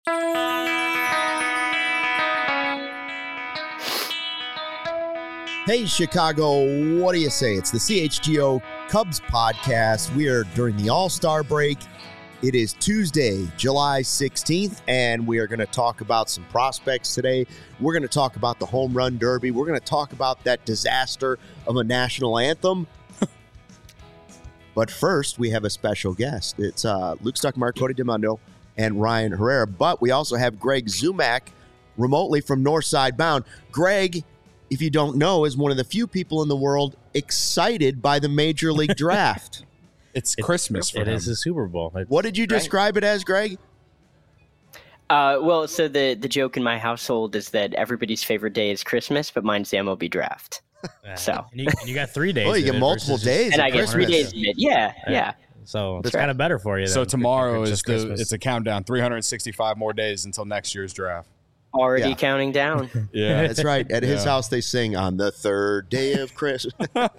Hey, Chicago, what do you say? It's the CHGO Cubs podcast. We are during the All-Star break. It is Tuesday, July 16th, and we are going to talk about some prospects today. We're going to talk about the Home Run Derby. We're going to talk about that disaster of a national anthem. But first, we have a special guest. It's Luke Stuckmeyer, Cody DeMundo, and Ryan Herrera. But we also have Greg Zumak remotely from Northside Bound. Greg, if you don't know, is one of the few people in the world excited by the Major League Draft. It's Christmas for him. It is a Super Bowl. What did you describe it as, Greg? Well, so the joke in my household is that everybody's favorite day is Christmas, but mine's the MLB Draft. So and you got 3 days. Well, you get multiple days. And I get 3 days of it. Yeah. So it's kind of better for you. So tomorrow is Christmas. it's a countdown. 365 more days until next year's draft. Already counting down. Yeah, That's right. At his house, they sing on the third day of Christmas.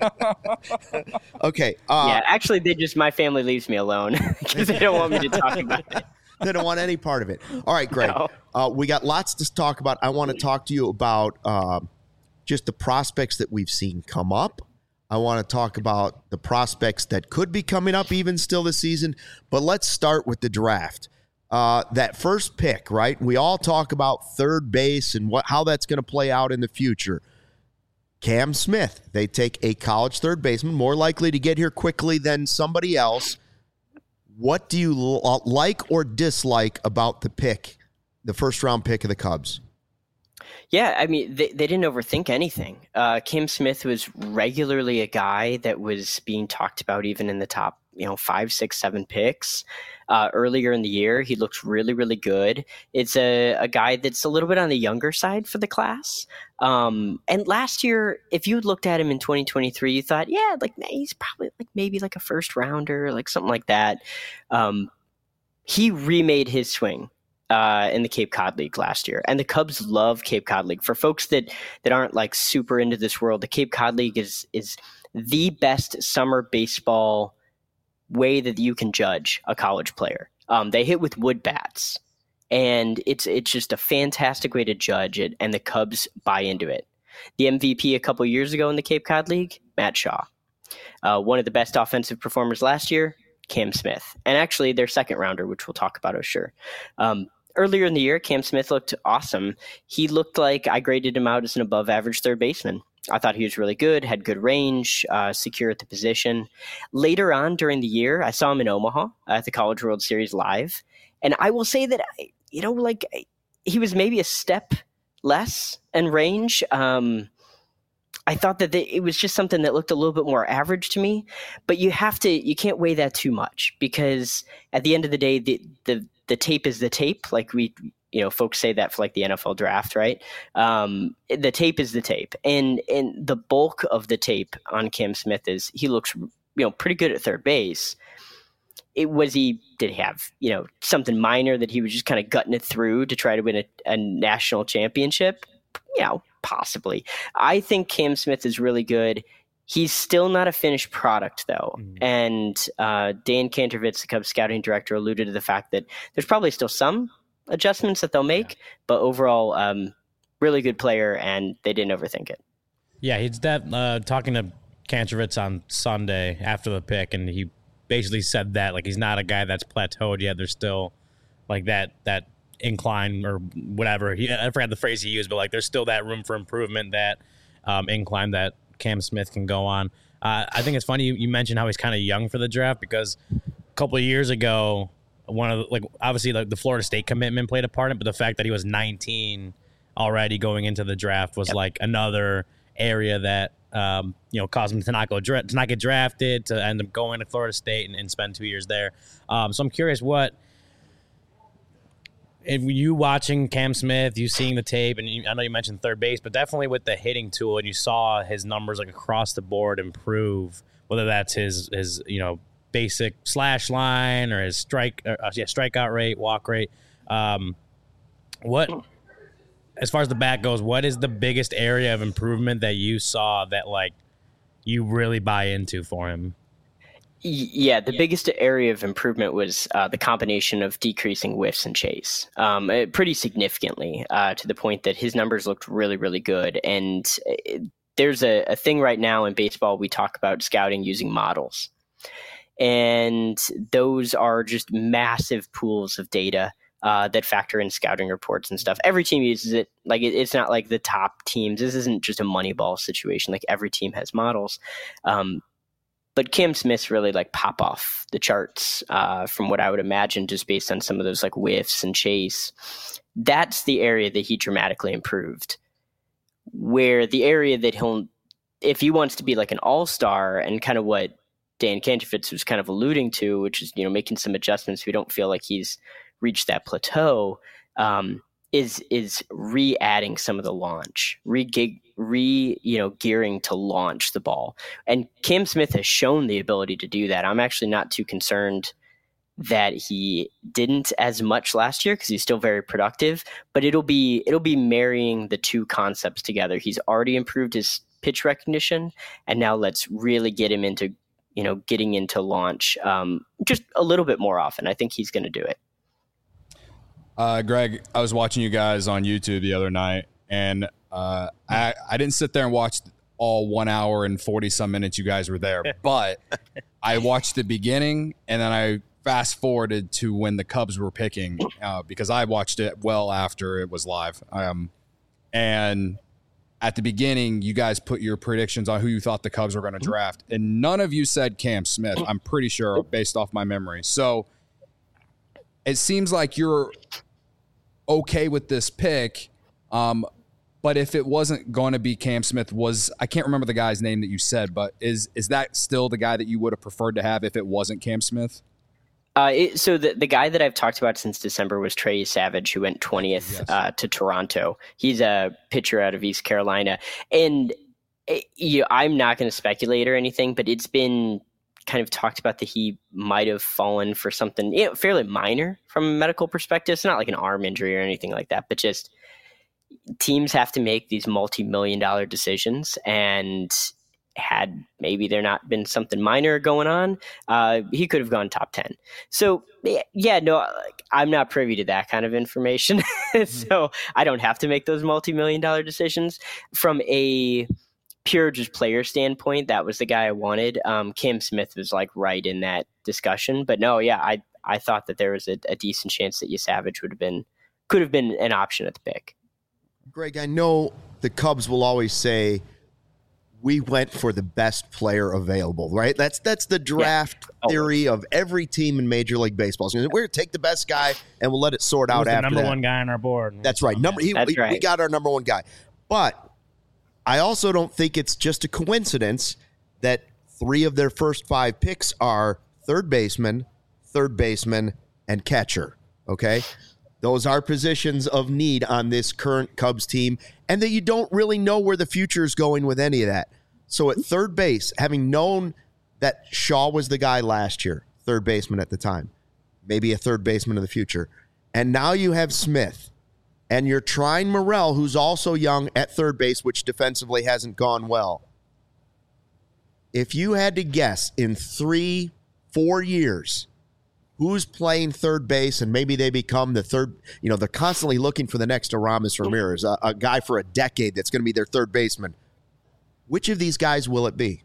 Okay. Yeah, actually, my family leaves me alone because they don't want me to talk about it. They don't want any part of it. All right, Greg. No. We got lots to talk about. I want to talk to you about just the prospects that we've seen come up. I want to talk about the prospects that could be coming up even still this season. But let's start with the draft. That first pick, right? We all talk about third base and how that's going to play out in the future. Cam Smith, they take a college third baseman, more likely to get here quickly than somebody else. What do you like or dislike about the pick, the first-round pick of the Cubs? Yeah, I mean, they didn't overthink anything. Cam Smith was regularly a guy that was being talked about even in the top 5, 6, 7 picks. Earlier in the year, he looked really, really good. It's a guy that's a little bit on the younger side for the class. And last year, if you had looked at him in 2023, you thought, yeah, he's probably maybe a first rounder, something like that. He remade his swing in the Cape Cod League last year. And the Cubs love Cape Cod League. For folks that aren't super into this world, the Cape Cod League is the best summer baseball way that you can judge a college player. They hit with wood bats, and it's just a fantastic way to judge it, and the Cubs buy into it. The MVP a couple years ago in the Cape Cod League, Matt Shaw. One of the best offensive performers last year, Cam Smith. And actually their second rounder, which we'll talk about, sure. Earlier in the year, Cam Smith looked awesome. He looked like I graded him out as an above average third baseman. I thought he was really good, had good range, secure at the position. Later on during the year, I saw him in Omaha at the College World Series live. And I will say that, he was maybe a step less in range. I thought that it was just something that looked a little bit more average to me. But you can't weigh that too much, because at the end of the day, the tape is the tape. Folks say that for the NFL draft, right? The tape is the tape. And the bulk of the tape on Cam Smith is he looks, pretty good at third base. Did he have, something minor that he was just kind of gutting it through to try to win a national championship? Possibly. I think Cam Smith is really good. He's still not a finished product, though. Mm-hmm. And Dan Kantervitz, the Cubs scouting director, alluded to the fact that there's probably still some adjustments that they'll make, but overall, really good player, and they didn't overthink it. Yeah, he's talking to Kantervitz on Sunday after the pick, and he basically said that he's not a guy that's plateaued yet. There's still that incline or whatever. I forgot the phrase he used, but there's still that room for improvement, that incline that Cam Smith can go on. I think it's funny you mentioned how he's kind of young for the draft, because a couple of years ago, obviously the Florida State commitment played a part in it, but the fact that he was 19 already going into the draft was another area that caused him to not get drafted, to end up going to Florida State and spend 2 years there. So I'm curious, if you watching Cam Smith, you seeing the tape, and I know you mentioned third base, but definitely with the hitting tool, and you saw his numbers across the board improve, whether that's his basic slash line or his strikeout rate, walk rate. What, as far as the bat goes, what is the biggest area of improvement that you saw that you really buy into for him? Yeah, the biggest area of improvement was the combination of decreasing whiffs and chase pretty significantly to the point that his numbers looked really, really good. And there's a thing right now in baseball, we talk about scouting using models. And those are just massive pools of data that factor in scouting reports and stuff. Every team uses it. Like it's not like the top teams. This isn't just a Moneyball situation. Like every team has models. But Cam Smith's really like pop off the charts from what I would imagine, just based on some of those like whiffs and chase. That's the area that he dramatically improved. Where the area that if he wants to be like an all-star, and kind of what Dan Kantrowitz was kind of alluding to, which is, making some adjustments. We don't feel like he's reached that plateau. Is re-adding some of the launch, gearing to launch the ball. And Cam Smith has shown the ability to do that. I'm actually not too concerned that he didn't as much last year because he's still very productive, but it'll be marrying the two concepts together. He's already improved his pitch recognition, and now let's really get him into, getting into launch just a little bit more often. I think he's going to do it. Greg, I was watching you guys on YouTube the other night, and I didn't sit there and watch all 1 hour and 40 some minutes you guys were there, but I watched the beginning, and then I fast forwarded to when the Cubs were picking because I watched it well after it was live. And at the beginning, you guys put your predictions on who you thought the Cubs were going to draft, and none of you said Cam Smith, I'm pretty sure, based off my memory. So it seems like you're okay with this pick, but if it wasn't going to be Cam Smith, I can't remember the guy's name that you said, but is that still the guy that you would have preferred to have if it wasn't Cam Smith? So the guy that I've talked about since December was Trey Savage, who went 20th to Toronto. He's a pitcher out of East Carolina, and I'm not going to speculate or anything, but it's been kind of talked about that he might have fallen for something fairly minor from a medical perspective. It's not like an arm injury or anything like that, but just teams have to make these multi-million-dollar decisions, and had maybe there not been something minor going on, he could have gone top 10. So I'm not privy to that kind of information. So I don't have to make those multi-million-dollar decisions. From a pure just player standpoint, that was the guy I wanted. Cam Smith was like right in that discussion, but no, I thought that there was a decent chance that Savage could have been an option at the pick. Greg, I know the Cubs will always say we went for the best player available, right? That's the draft theory of every team in Major League Baseball. So we're going to take the best guy and we'll let it sort out after that. Number one guy on our board. That's right. We got our number one guy. But I also don't think it's just a coincidence that 3 of their first 5 picks are third baseman, and catcher, okay? Those are positions of need on this current Cubs team, and that you don't really know where the future is going with any of that. So at third base, having known that Shaw was the guy last year, third baseman at the time, maybe a third baseman of the future, and now you have Smith, and you're trying Morel, who's also young at third base, which defensively hasn't gone well. If you had to guess in 3-4 years who's playing third base, and maybe they become the third, they're constantly looking for the next Aramis Ramirez, a guy for a decade that's going to be their third baseman. Which of these guys will it be?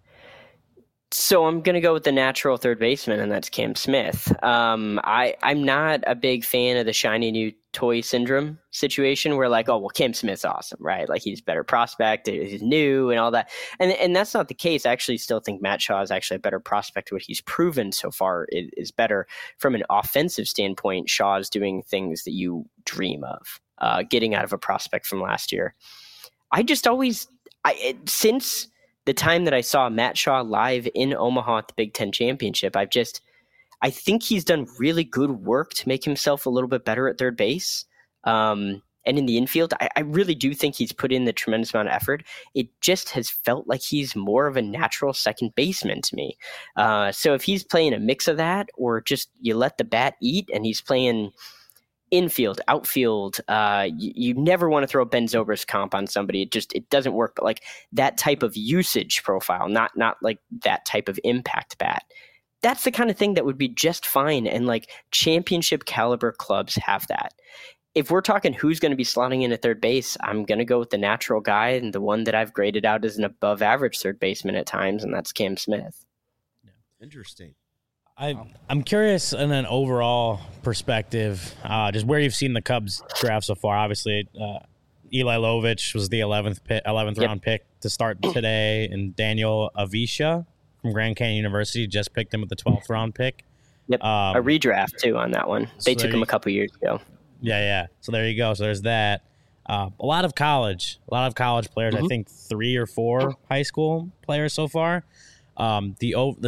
So I'm going to go with the natural third baseman, and that's Cam Smith. I'm not a big fan of the shiny new toy syndrome situation where like, oh, well, Cam Smith's awesome, right? Like he's a better prospect, he's new and all that. And that's not the case. I actually still think Matt Shaw is actually a better prospect. What he's proven so far is better. From an offensive standpoint, Shaw is doing things that you dream of, getting out of a prospect from last year. Since the time that I saw Matt Shaw live in Omaha at the Big Ten Championship, I think he's done really good work to make himself a little bit better at third base. And in the infield, I really do think he's put in the tremendous amount of effort. It just has felt like he's more of a natural second baseman to me. So if he's playing a mix of that, or just you let the bat eat and he's playing infield, outfield. You never want to throw Ben Zobrist comp on somebody. It doesn't work. But like that type of usage profile, not like that type of impact bat. That's the kind of thing that would be just fine. And like championship caliber clubs have that. If we're talking who's going to be slotting in at third base, I'm going to go with the natural guy and the one that I've graded out as an above average third baseman at times, and that's Cam Smith. Interesting. I'm curious in an overall perspective, just where you've seen the Cubs draft so far. Obviously, Eli Lovich was the 11th round pick to start today, and Daniel Avisha from Grand Canyon University just picked him with the 12th round pick. Yep, a redraft too on that one. They took him a couple years ago. Yeah. So there you go. So there's that. A lot of college players. I think 3 or 4 high school players so far. The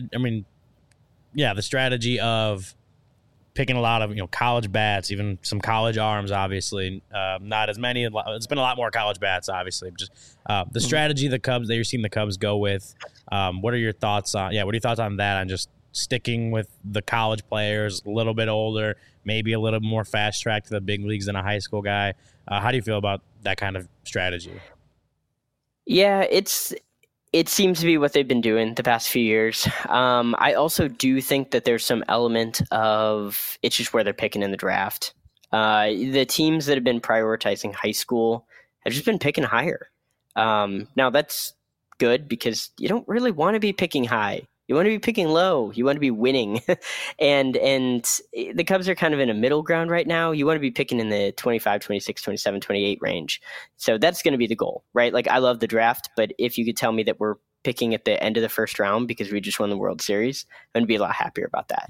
strategy of picking a lot of college bats, even some college arms. Obviously, not as many. It's been a lot more college bats, obviously. Just the strategy that you're seeing the Cubs go with. What are your thoughts on? Yeah, what are your thoughts on that? On just sticking with the college players, a little bit older, maybe a little more fast track to the big leagues than a high school guy. How do you feel about that kind of strategy? Yeah, it seems to be what they've been doing the past few years. I also do think that there's some element of it's just where they're picking in the draft. The teams that have been prioritizing high school have just been picking higher. Now that's good because you don't really want to be picking high. You want to be picking low. You want to be winning. and the Cubs are kind of in a middle ground right now. You want to be picking in the 25, 26, 27, 28 range. So that's going to be the goal, right? Like I love the draft, but if you could tell me that we're picking at the end of the first round because we just won the World Series, I'm going to be a lot happier about that.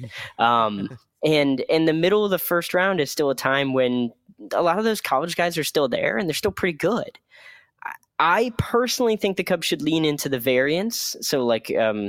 And in the middle of the first round is still a time when a lot of those college guys are still there and they're still pretty good. I personally think the Cubs should lean into the variance. So like,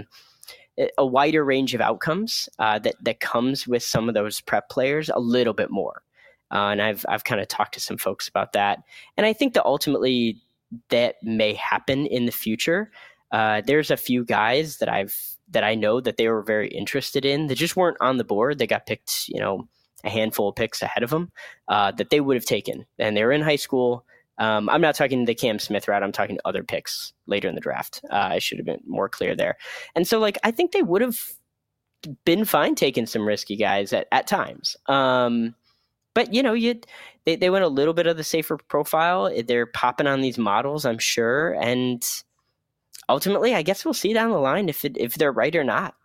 a wider range of outcomes that comes with some of those prep players a little bit more. And I've kind of talked to some folks about that. And I think that ultimately that may happen in the future. There's a few guys that I know that they were very interested in that just weren't on the board. They got picked, a handful of picks ahead of them that they would have taken. And they were in high school. I'm not talking the Cam Smith route. I'm talking other picks later in the draft. I should have been more clear there. And so, like, I think they would have been fine taking some risky guys at times. But, they went a little bit of the safer profile. They're popping on these models, I'm sure. And ultimately, I guess we'll see down the line if they're right or not.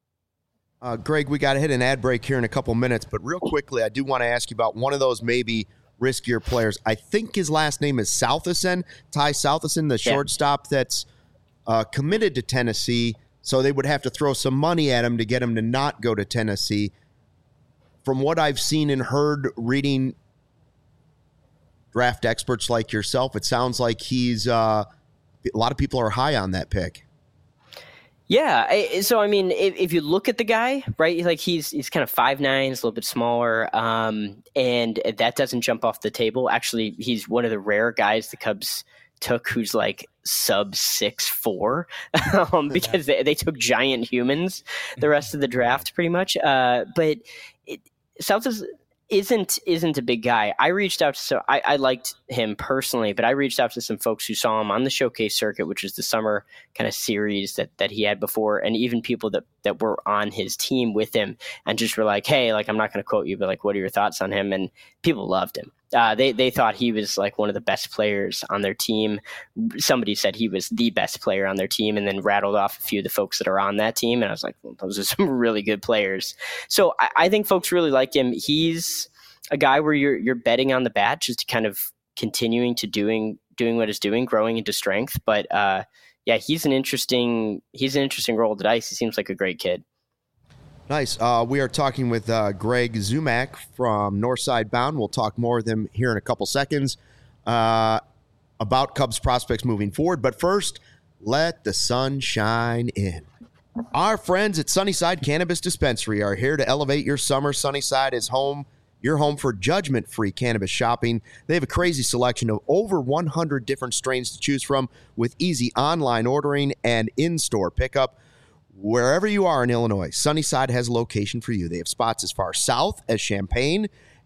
Greg, we got to hit an ad break here in a couple minutes. But real quickly, I do want to ask you about one of those maybe riskier players. I think his last name is Southerson, Ty Southerson, the shortstop that's committed to Tennessee. So they would have to throw some money at him to get him to not go to Tennessee. From what I've seen and heard reading draft experts like yourself, it sounds like he's a lot of people are high on that pick. Yeah. So, I mean, if you look at the guy, right, like he's kind of 5'9", he's a little bit smaller, and that doesn't jump off the table. Actually, he's one of the rare guys the Cubs took who's like sub 6'4", because they took giant humans the rest of the draft pretty much. But South isn't a big guy. I reached out to I liked him personally, but I reached out to some folks who saw him on the showcase circuit, which is the summer kind of series that he had before, and even people that were on his team with him and just were like, hey, like, I'm not going to quote you, but like, what are your thoughts on him? And people loved him. They thought he was like one of the best players on their team. Somebody said he was the best player on their team, and then rattled off a few of the folks that are on that team. And I was like, well, those are some really good players. So I think folks really liked him. He's a guy where you're betting on the bat, just kind of continuing to doing what he's doing, growing into strength. But yeah, he's an interesting roll of the dice. He seems like a great kid. Nice. We are talking with Greg Zumak from Northside Bound. We'll talk more with him here in a couple seconds about Cubs prospects moving forward. But first, let the sun shine in. Our friends at Sunnyside Cannabis Dispensary are here to elevate your summer. Sunnyside is your home for judgment-free cannabis shopping. They have a crazy selection of over 100 different strains to choose from with easy online ordering and in-store pickup. Wherever you are in Illinois, Sunnyside has a location for you. They have spots as far south as Champaign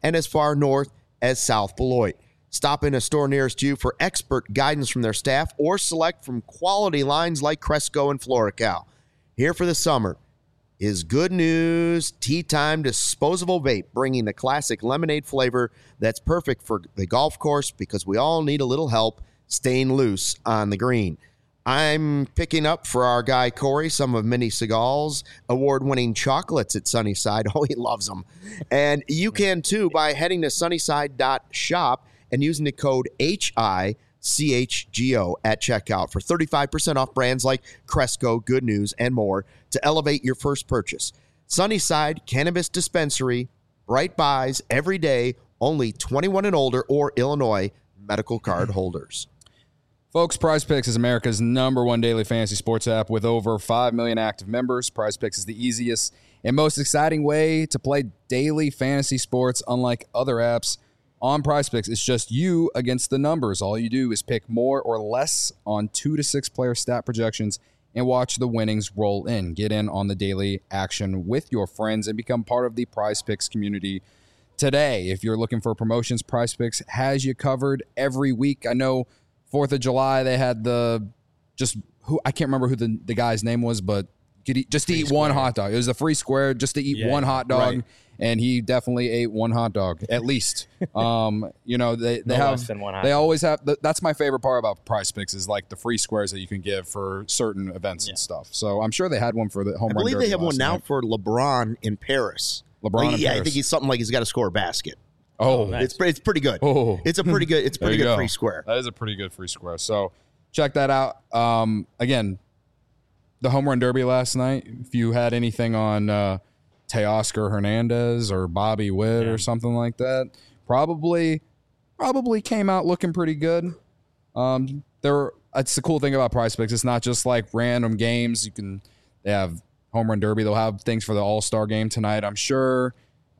and as far north as South Beloit. Stop in a store nearest you for expert guidance from their staff or select from quality lines like Cresco and Florical. Here for the summer is Good News Tea Time disposable vape, bringing the classic lemonade flavor that's perfect for the golf course because we all need a little help staying loose on the green. I'm picking up for our guy Corey some of Mini Seagal's award-winning chocolates at Sunnyside. Oh, he loves them. And you can too by heading to sunnyside.shop and using the code HICHGO at checkout for 35% off brands like Cresco, Good News, and more to elevate your first purchase. Sunnyside Cannabis Dispensary, bright buys every day, only 21 and older or Illinois medical card holders. Folks, PrizePicks is America's #1 daily fantasy sports app with over 5 million active members. PrizePicks is the easiest and most exciting way to play daily fantasy sports. Unlike other apps, on PrizePicks, it's just you against the numbers. All you do is pick more or less on 2 to 6 player stat projections and watch the winnings roll in. Get in on the daily action with your friends and become part of the PrizePicks community today. If you're looking for promotions, PrizePicks has you covered every week. I know 4th of July, they had I can't remember who the guy's name was, but just to eat one hot dog. It was a free square just to eat one hot dog, right. And he definitely ate one hot dog, at least. They always have, that's my favorite part about PrizePicks is like the free squares that you can give for certain events and stuff. So I'm sure they had one for the home run derby. I believe they have one now for LeBron in Paris. Paris. I think he's something like he's got to score a basket. Oh, nice. It's pretty good. Oh. It's a pretty good free square. That is a pretty good free square. So check that out. Again, the home run derby last night. If you had anything on Teoscar Hernandez or Bobby Witt or something like that, probably came out looking pretty good. That's the cool thing about PrizePicks. It's not just like random games. They have home run derby. They'll have things for the All-Star game tonight, I'm sure.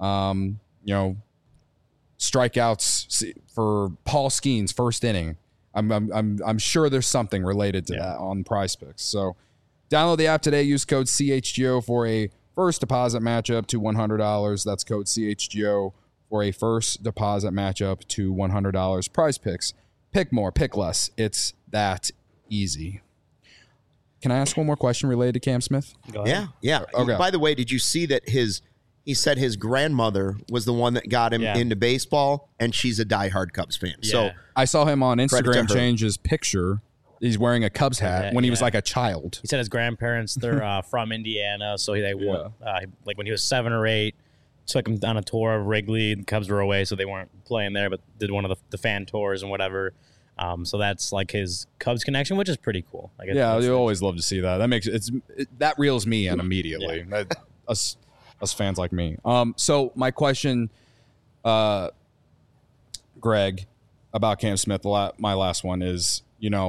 Strikeouts for Paul Skeens first inning. I'm sure there's something related to that on PrizePicks. So download the app today. Use code CHGO for a first deposit matchup to $100. That's code CHGO for a first deposit matchup to $100. PrizePicks. Pick more, pick less. It's that easy. Can I ask one more question related to Cam Smith? Go ahead. Yeah. Okay. By the way, did you see that he said his grandmother was the one that got him into baseball, and she's a diehard Cubs fan. Yeah. So I saw him on Instagram change his picture. He's wearing a Cubs hat when he was like a child. He said his grandparents, they're from Indiana, so they went, like when he was 7 or 8, took him on a tour of Wrigley. The Cubs were away, so they weren't playing there, but did one of the fan tours and whatever. So that's like his Cubs connection, which is pretty cool. You always love to see that. That makes that reels me in immediately. Us fans like me. So my question, Greg, about Cam Smith, my last one is,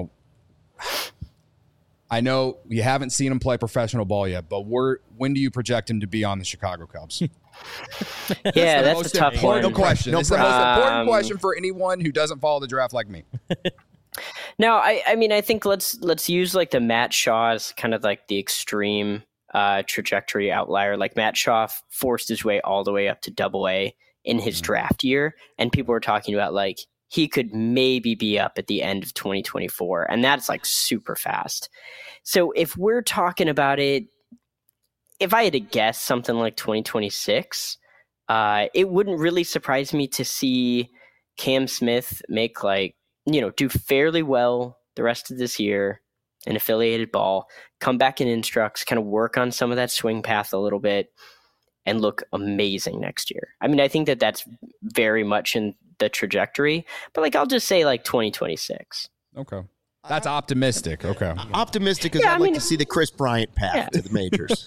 I know you haven't seen him play professional ball yet, but when do you project him to be on the Chicago Cubs? That's a tough question. It's the most important question for anyone who doesn't follow the draft like me. No, I think let's use like the Matt Shaw as kind of like the extreme trajectory outlier. Like Matt Shaw forced his way all the way up to AA in his draft year, and people were talking about like he could maybe be up at the end of 2024, and that's like super fast. So if we're talking about it, if I had to guess something like 2026, it wouldn't really surprise me to see Cam Smith make do fairly well the rest of this year in affiliated ball, come back in instructs, kind of work on some of that swing path a little bit, and look amazing next year. I mean, I think that's very much in the trajectory, but I'll just say 2026. Okay. That's optimistic. Okay. Optimistic because I'd like to see the Chris Bryant path to the majors.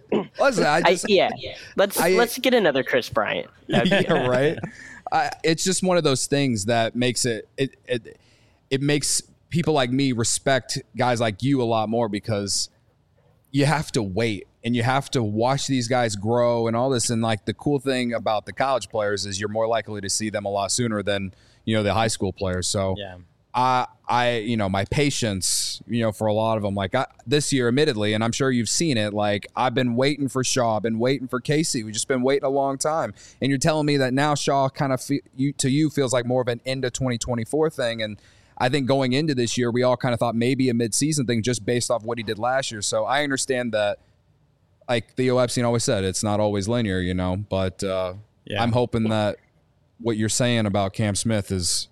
Let's get another Chris Bryant. Right. It's just one of those things that makes it makes people like me respect guys like you a lot more, because you have to wait and you have to watch these guys grow and all this. And the cool thing about the college players is you're more likely to see them a lot sooner than, the high school players. So my patience, for a lot of them, like this year, admittedly, and I'm sure you've seen it, like I've been waiting for Shaw, I've been waiting for Casey. We've just been waiting a long time. And you're telling me that now Shaw kind of to you feels like more of an end of 2024 thing. And I think going into this year, we all kind of thought maybe a midseason thing just based off what he did last year. So I understand that, like Theo Epstein always said, it's not always linear, but I'm hoping that what you're saying about Cam Smith is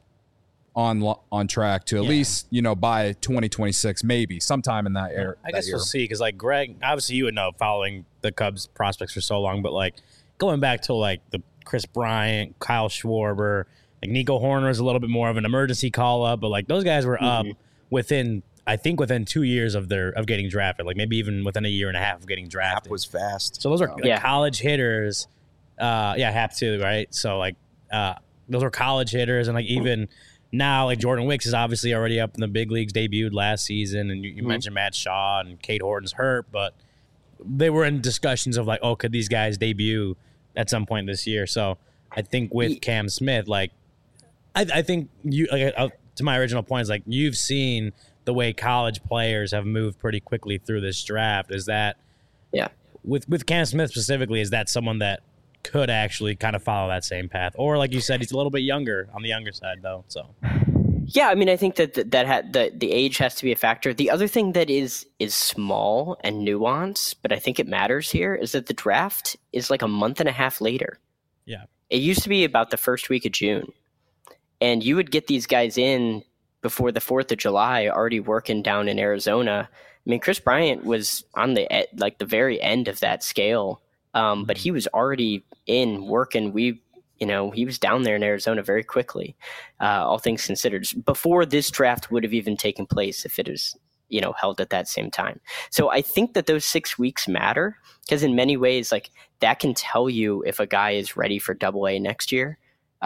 on track to at least, by 2026, maybe sometime in that era. I guess we'll see, because like Greg, obviously you would know following the Cubs prospects for so long, but like going back to like the Chris Bryant, Kyle Schwarber, like Nico Horner is a little bit more of an emergency call up, but like those guys were up within 2 years of getting drafted, like maybe even within a year and a half of getting drafted. Hap was fast. So those are college hitters. Hap too, right? So like those are college hitters, and like even now, like Jordan Wicks is obviously already up in the big leagues, debuted last season, and you mentioned Matt Shaw and Cade Horton's hurt, but they were in discussions of like, oh, could these guys debut at some point this year? So I think with Cam Smith, like I think you, like, to my original point, is like you've seen the way college players have moved pretty quickly through this draft. Is that with Cam Smith specifically, is that someone that could actually kind of follow that same path? Or like you said, he's a little bit younger, on the younger side though. So yeah, I mean, I think that the age has to be a factor. The other thing that is small and nuanced, but I think it matters here, is that the draft is like a month and a half later. Yeah. It used to be about the first week of June, and you would get these guys in before the 4th of July, already working down in Arizona. I mean, Chris Bryant was on the very end of that scale. But he was already in working. He was down there in Arizona very quickly, all things considered, before this draft would have even taken place if it was, held at that same time. So I think that those 6 weeks matter, because in many ways, like that can tell you if a guy is ready for AA next year,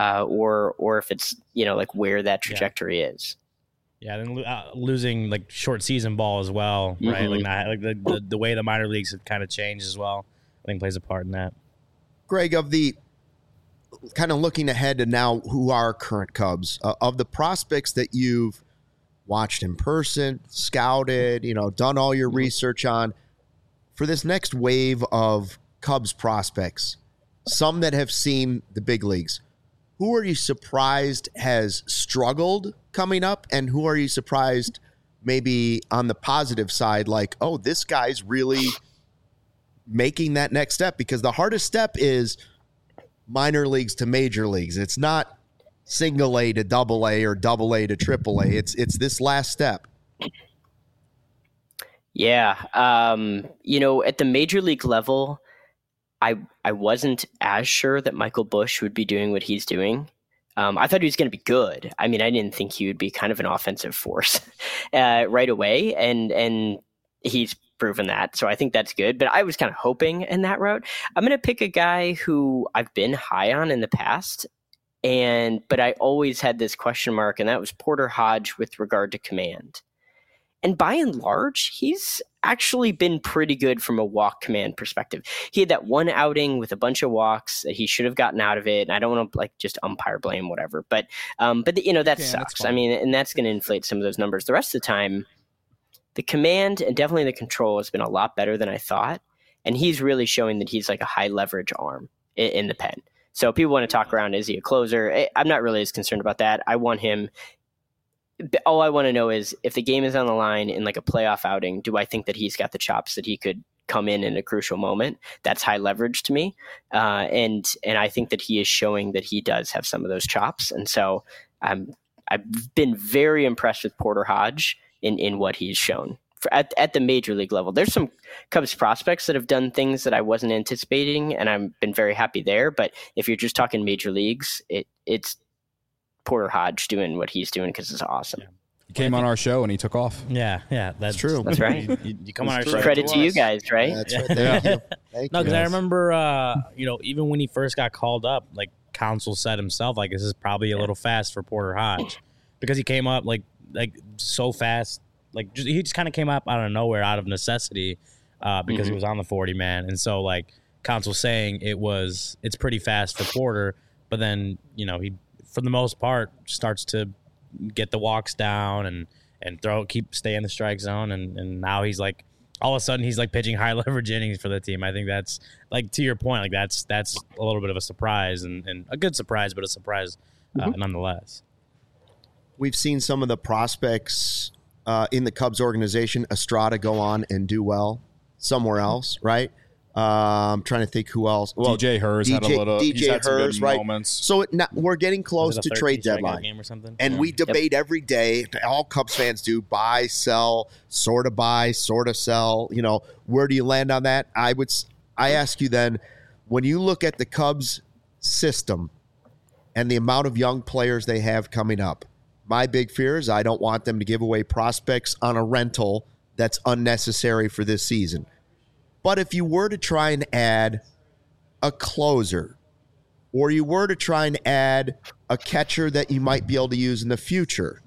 or if it's, like where that trajectory is. Yeah, then losing like short season ball as well, right? Like the way the minor leagues have kind of changed as well, I think plays a part in that. Greg, of the kind of looking ahead to now who are current Cubs, of the prospects that you've watched in person, scouted, done all your research on, for this next wave of Cubs prospects, some that have seen the big leagues, who are you surprised has struggled coming up, and who are you surprised maybe on the positive side, like, oh, this guy's really making that next step? Because the hardest step is minor leagues to major leagues. It's not single A to double A or double A to triple A. It's this last step. Yeah. At the major league level, I wasn't as sure that Michael Busch would be doing what he's doing. I thought he was going to be good. I mean, I didn't think he would be kind of an offensive force right away. And he's proven that. So I think that's good. But I was kind of hoping in that route. I'm going to pick a guy who I've been high on in the past, but I always had this question mark, and that was Porter Hodge with regard to command. And by and large, he's actually been pretty good from a walk command perspective. He had that one outing with a bunch of walks that he should have gotten out of it. And I don't want to just umpire blame, whatever. But that sucks. I mean, and that's going to inflate some of those numbers. The rest of the time, the command and definitely the control has been a lot better than I thought. And he's really showing that he's like a high leverage arm in the pen. So people want to talk around, is he a closer? I'm not really as concerned about that. I want him. All I want to know is if the game is on the line in like a playoff outing, do I think that he's got the chops that he could come in a crucial moment? That's high leverage to me. And I think that he is showing that he does have some of those chops. And so I've been very impressed with Porter Hodge in what he's shown at the major league level. There's some Cubs prospects that have done things that I wasn't anticipating, and I've been very happy there. But if you're just talking major leagues, it's Porter Hodge doing what he's doing because it's awesome. Yeah. He came on our show and he took off. Yeah, that's true. That's right. You come on our show. Credit to you guys, right? That's right. Thank you. No, because I remember, even when he first got called up, like Counsell said himself, like this is probably a little fast for Porter Hodge, because he came up like so fast, he just kind of came up out of nowhere, out of necessity, because he was on the 40 man, and so like Counsell saying it's pretty fast for Porter, but then he, for the most part, starts to get the walks down and stay in the strike zone. And now he's like, all of a sudden he's like pitching high leverage innings for the team. I think that's like, to your point, like that's a little bit of a surprise and a good surprise, but a surprise nonetheless. We've seen some of the prospects in the Cubs organization, Estrada, go on and do well somewhere else, right? I'm trying to think who else. Well, DJ Herz had a little. DJ he's had some Herz, good right? moments. So we're getting close to trade deadline, game or something? and we debate every day. All Cubs fans do: buy, sell, sort of sell. You know, where do you land on that? I ask you then, when you look at the Cubs system and the amount of young players they have coming up, my big fear is I don't want them to give away prospects on a rental that's unnecessary for this season. But if you were to try and add a closer, or you were to try and add a catcher that you might be able to use in the future,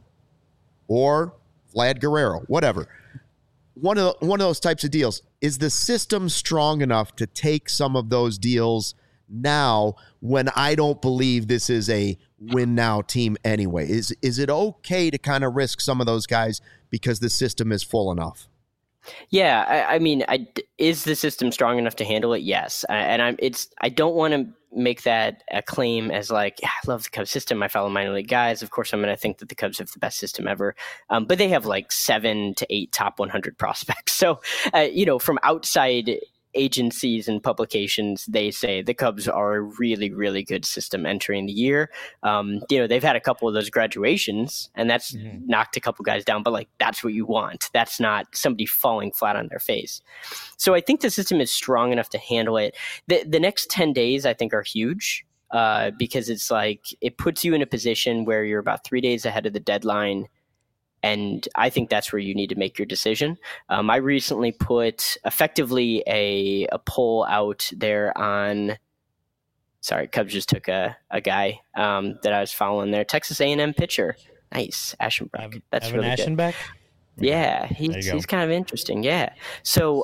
or Vlad Guerrero, whatever, one of those types of deals, is the system strong enough to take some of those deals now when I don't believe this is a win now team anyway? Is it okay to kind of risk some of those guys because the system is full enough? Yeah, I mean, is the system strong enough to handle it? Yes, I don't want to make that a claim as like, I love the Cubs system. I follow minor league guys. Of course, I'm going to think that the Cubs have the best system ever, but they have like 7 to 8 top 100 prospects. So, from outside agencies and publications, they say the Cubs are a really, really good system entering the year. They've had a couple of those graduations, and that's knocked a couple guys down, but like, that's what you want. That's not somebody falling flat on their face. So I think the system is strong enough to handle it. The next 10 days, I think, are huge because it's like, it puts you in a position where you're about 3 days ahead of the deadline. And I think that's where you need to make your decision. I recently put effectively a poll out there on. Sorry, Cubs just took a guy that I was following there. Texas A&M pitcher, nice, Ashenbach. That's Evan really Ashenbach? good. Yeah, he's kind of interesting. Yeah, so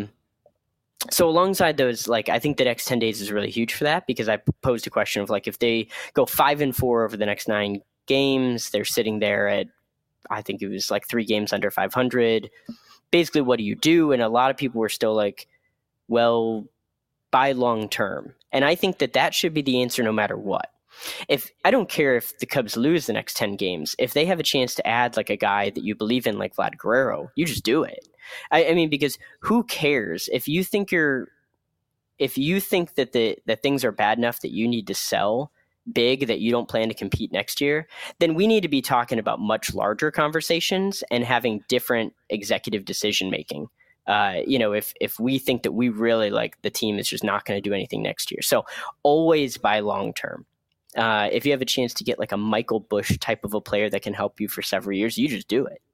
alongside those, like, I think the next 10 days is really huge for that, because I posed a question of like, if they go 5-4 over the next 9 games, they're sitting there at, I think it was like 3 games under 500. Basically, what do you do? And a lot of people were still like, well, buy long term. And I think that should be the answer no matter what. I don't care if the Cubs lose the next 10 games, if they have a chance to add like a guy that you believe in, like Vlad Guerrero, you just do it. I mean, because who cares if you think that things are bad enough that you need to sell big, that you don't plan to compete next year, then we need to be talking about much larger conversations and having different executive decision making. If we think that we really like the team is just not going to do anything next year. So always buy long term. If you have a chance to get like a Michael Busch type of a player that can help you for several years, you just do it.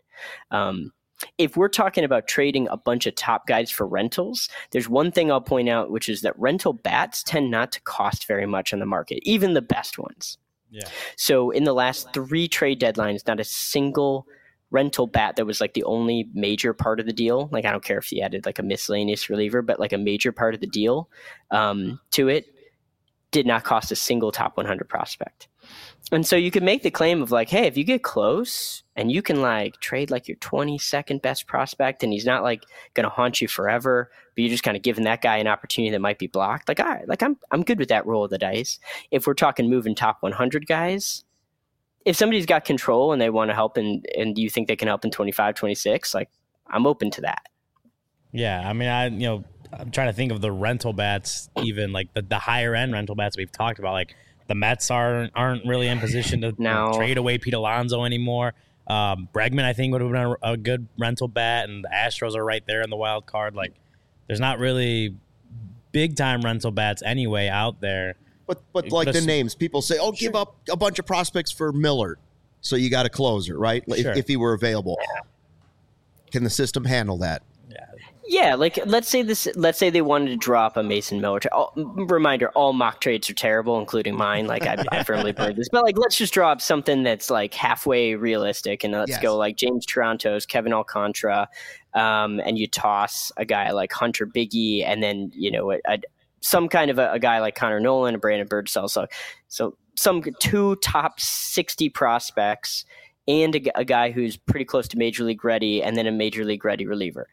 If we're talking about trading a bunch of top guys for rentals, there's one thing I'll point out, which is that rental bats tend not to cost very much on the market, even the best ones. Yeah. So in the last 3 trade deadlines, not a single rental bat that was like the only major part of the deal. Like, I don't care if you added like a miscellaneous reliever, but like a major part of the deal to it did not cost a single top 100 prospect. And so you could make the claim of like, hey, if you get close and you can like trade like your 22nd best prospect and he's not like going to haunt you forever, but you're just kind of giving that guy an opportunity that might be blocked. Like, all right, like I'm good with that roll of the dice. If we're talking moving top 100 guys, if somebody's got control and they want to help and you think they can help in 25, 26, like I'm open to that. Yeah. I mean, I'm trying to think of the rental bats, even like the higher end rental bats we've talked about, like, the Mets aren't really in position to trade away Pete Alonso anymore. Bregman, I think, would have been a good rental bat, and the Astros are right there in the wild card. Like, there's not really big time rental bats anyway out there. But like the names, people say, sure, give up a bunch of prospects for Miller, so you got a closer, right? Sure. If he were available. Yeah. Can the system handle that? Yeah, like let's say they wanted to drop a Mason Miller. Reminder: all mock trades are terrible, including mine. Like I firmly believe this, but like let's just draw up something that's like halfway realistic, and let's go like James Toronto's, Kevin Alcantara, and you toss a guy like Hunter Biggie, and then some kind of a guy like Connor Nolan, a Brandon Birdsell. So some 2 top 60 prospects and a guy who's pretty close to major league ready, and then a major league ready reliever.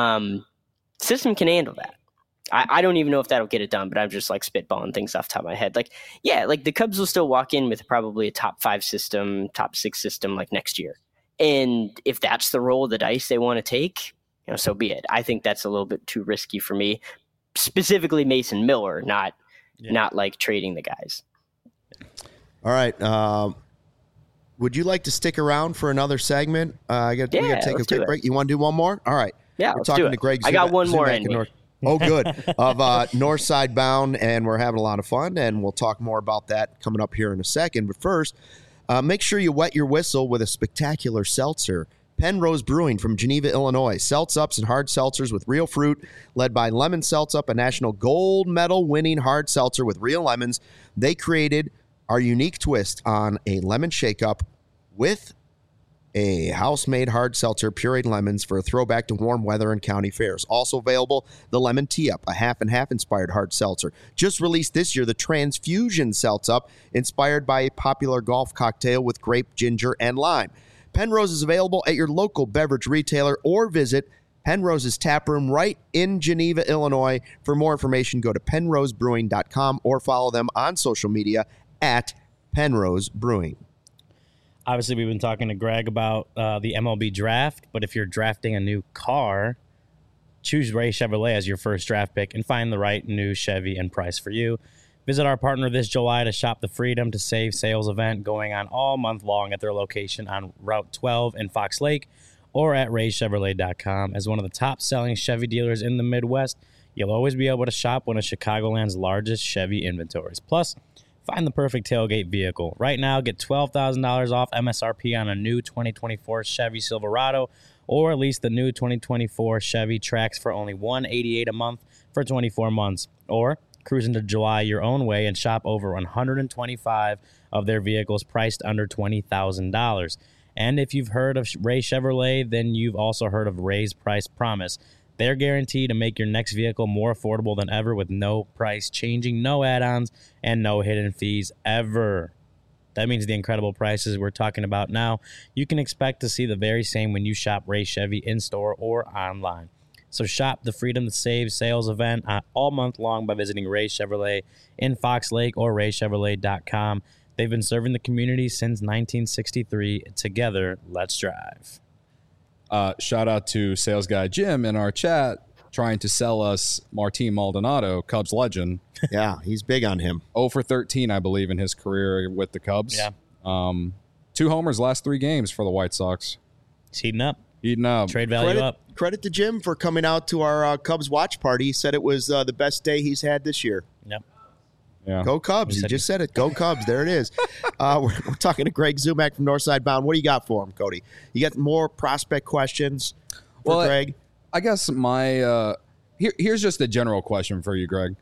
System can handle that. I don't even know if that'll get it done, but I'm just like spitballing things off the top of my head. Like, yeah, like the Cubs will still walk in with probably a top 5 system, top 6 system like next year. And if that's the roll of the dice they want to take, so be it. I think that's a little bit too risky for me, specifically Mason Miller, not like trading the guys. All right. Would you like to stick around for another segment? We got to take a quick break. You want to do one more? All right. Yeah, we're talking to Greg. I got one more in me. Oh, good. Of Northside Bound, and we're having a lot of fun, and we'll talk more about that coming up here in a second. But first, make sure you wet your whistle with a spectacular seltzer. Penrose Brewing from Geneva, Illinois. Seltz-ups and hard seltzers with real fruit, led by Lemon Seltz-Up, a national gold medal winning hard seltzer with real lemons. They created our unique twist on a lemon shake-up with a house-made hard seltzer, pureed lemons for a throwback to warm weather and county fairs. Also available, the Lemon Tee-Up, a half-and-half inspired hard seltzer. Just released this year, the Transfusion Seltz-Up, inspired by a popular golf cocktail with grape, ginger, and lime. Penrose is available at your local beverage retailer or visit Penrose's taproom right in Geneva, Illinois. For more information, go to penrosebrewing.com or follow them on social media at Penrose Brewing. Obviously, we've been talking to Greg about the MLB draft, but if you're drafting a new car, choose Ray Chevrolet as your first draft pick and find the right new Chevy and price for you. Visit our partner this July to shop the Freedom to Save sales event going on all month long at their location on Route 12 in Fox Lake or at raychevrolet.com. As one of the top-selling Chevy dealers in the Midwest, you'll always be able to shop one of Chicagoland's largest Chevy inventories. Plus, find the perfect tailgate vehicle. Right now, get $12,000 off MSRP on a new 2024 Chevy Silverado or at least the new 2024 Chevy Trax for only $188 a month for 24 months. Or cruise into July your own way and shop over 125 of their vehicles priced under $20,000. And if you've heard of Ray Chevrolet, then you've also heard of Ray's Price Promise. They're guaranteed to make your next vehicle more affordable than ever with no price changing, no add-ons, and no hidden fees ever. That means the incredible prices we're talking about now, you can expect to see the very same when you shop Ray Chevy in-store or online. So shop the Freedom to Save sales event all month long by visiting Ray Chevrolet in Fox Lake or raychevrolet.com. They've been serving the community since 1963. Together, let's drive. Shout out to sales guy Jim in our chat trying to sell us Martin Maldonado, Cubs legend. Yeah, he's big on him. 0 for 13, I believe, in his career with the Cubs. Yeah. 2 homers last 3 games for the White Sox. He's heating up. Trade value credit, up. Credit to Jim for coming out to our Cubs watch party. He said it was the best day he's had this year. Yep. Yeah. Go Cubs. He just said it. Go Cubs. There it is. We're talking to Greg Zumak from Northside Bound. What do you got for him, Cody? You got more prospect questions for Greg? I guess my here's just a general question for you, Greg.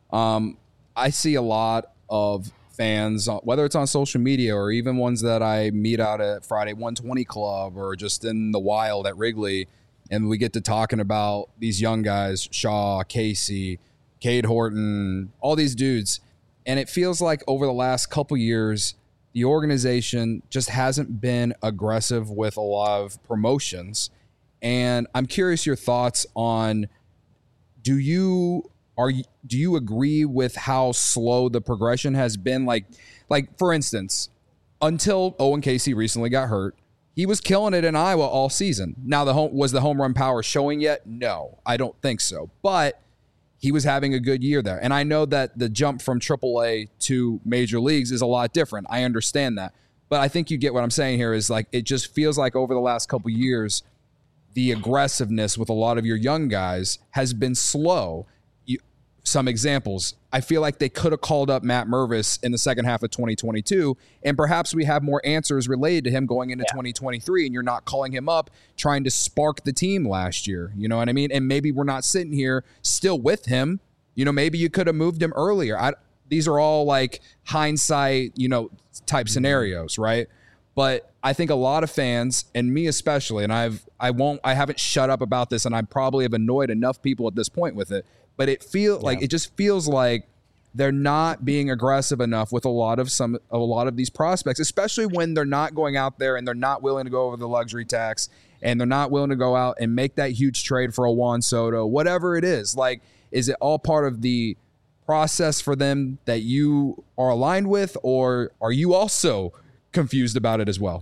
I see a lot of fans, whether it's on social media or even ones that I meet out at Friday 120 Club or just in the wild at Wrigley, and we get to talking about these young guys, Shaw, Casey, Cade Horton, all these dudes. And it feels like over the last couple years, the organization just hasn't been aggressive with a lot of promotions. And I'm curious your thoughts on, do you agree with how slow the progression has been? Like for instance, until Owen Casey recently got hurt, he was killing it in Iowa all season. Now, was the home run power showing yet? No, I don't think so. But he was having a good year there. And I know that the jump from AAA to major leagues is a lot different. I understand that. But I think you get what I'm saying here is like, it just feels like over the last couple years, the aggressiveness with a lot of your young guys has been slow. Some examples, I feel like they could have called up Matt Mervis in the second half of 2022, and perhaps we have more answers related to him going into 2023, and you're not calling him up trying to spark the team last year. You know what I mean? And maybe we're not sitting here still with him. You know, maybe you could have moved him earlier. These are all like hindsight, type scenarios, right? But I think a lot of fans, and me especially, and I haven't shut up about this, and I probably have annoyed enough people at this point with it, but it just feels like they're not being aggressive enough with a lot of these prospects, especially when they're not going out there and they're not willing to go over the luxury tax and they're not willing to go out and make that huge trade for a Juan Soto, whatever it is. Like, is it all part of the process for them that you are aligned with, or are you also confused about it as well?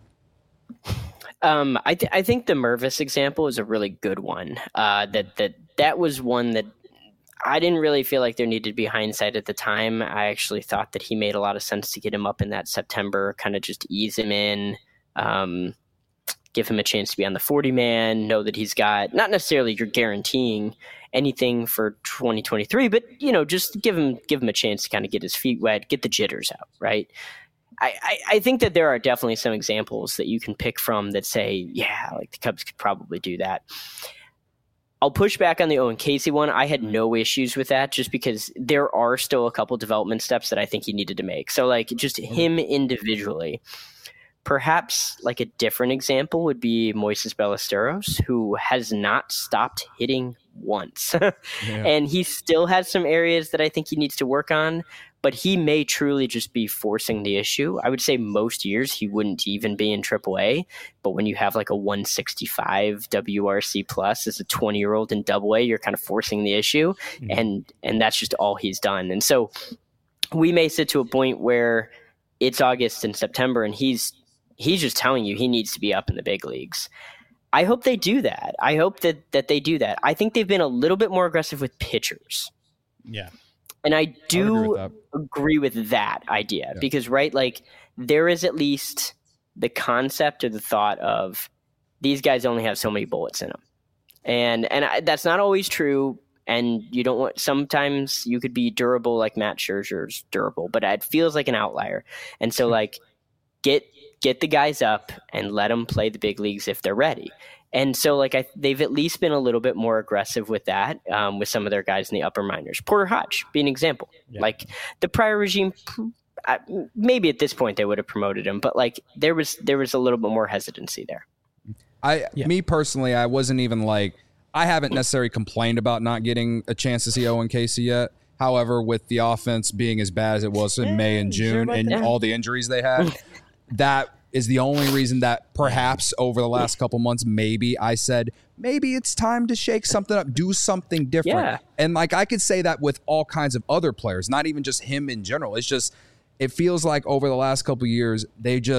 I think the Mervis example is a really good one. That was one that I didn't really feel like there needed to be hindsight at the time. I actually thought that he made a lot of sense to get him up in that September, kind of just ease him in, give him a chance to be on the 40-man, know that he's got, not necessarily you're guaranteeing anything for 2023, but, just give him a chance to kind of get his feet wet, get the jitters out, right? I think that there are definitely some examples that you can pick from that say, yeah, like the Cubs could probably do that. I'll push back on the Owen Casey one. I had no issues with that just because there are still a couple development steps that I think he needed to make. So like just him individually. Perhaps like a different example would be Moises Ballesteros, who has not stopped hitting once. And he still has some areas that I think he needs to work on, but he may truly just be forcing the issue. I would say most years he wouldn't even be in AAA, but when you have like a 165 WRC plus as a 20-year-old in AA, you're kind of forcing the issue, and that's just all he's done. And so we may sit to a point where it's August and September, and he's just telling you he needs to be up in the big leagues. I hope they do that. I hope that they do that. I think they've been a little bit more aggressive with pitchers. Yeah. And I do agree with that idea because, right, like there is at least the concept or the thought of these guys only have so many bullets in them. And that's not always true. And you don't want, sometimes you could be durable like Matt Scherzer's durable, but it feels like an outlier. And so like get the guys up and let them play the big leagues if they're ready. And so like they've at least been a little bit more aggressive with that, with some of their guys in the upper minors. Porter Hodge being an example. Yeah. Like the prior regime, maybe at this point they would have promoted him, but like there was a little bit more hesitancy there. Me personally, I wasn't even like, I haven't necessarily complained about not getting a chance to see Owen Casey yet. However, with the offense being as bad as it was in May and June and all the injuries they had, that is the only reason that perhaps over the last couple months, maybe I said, maybe it's time to shake something up, do something different. Yeah. And like I could say that with all kinds of other players, not even just him in general. It's just, it feels like over the last couple of years,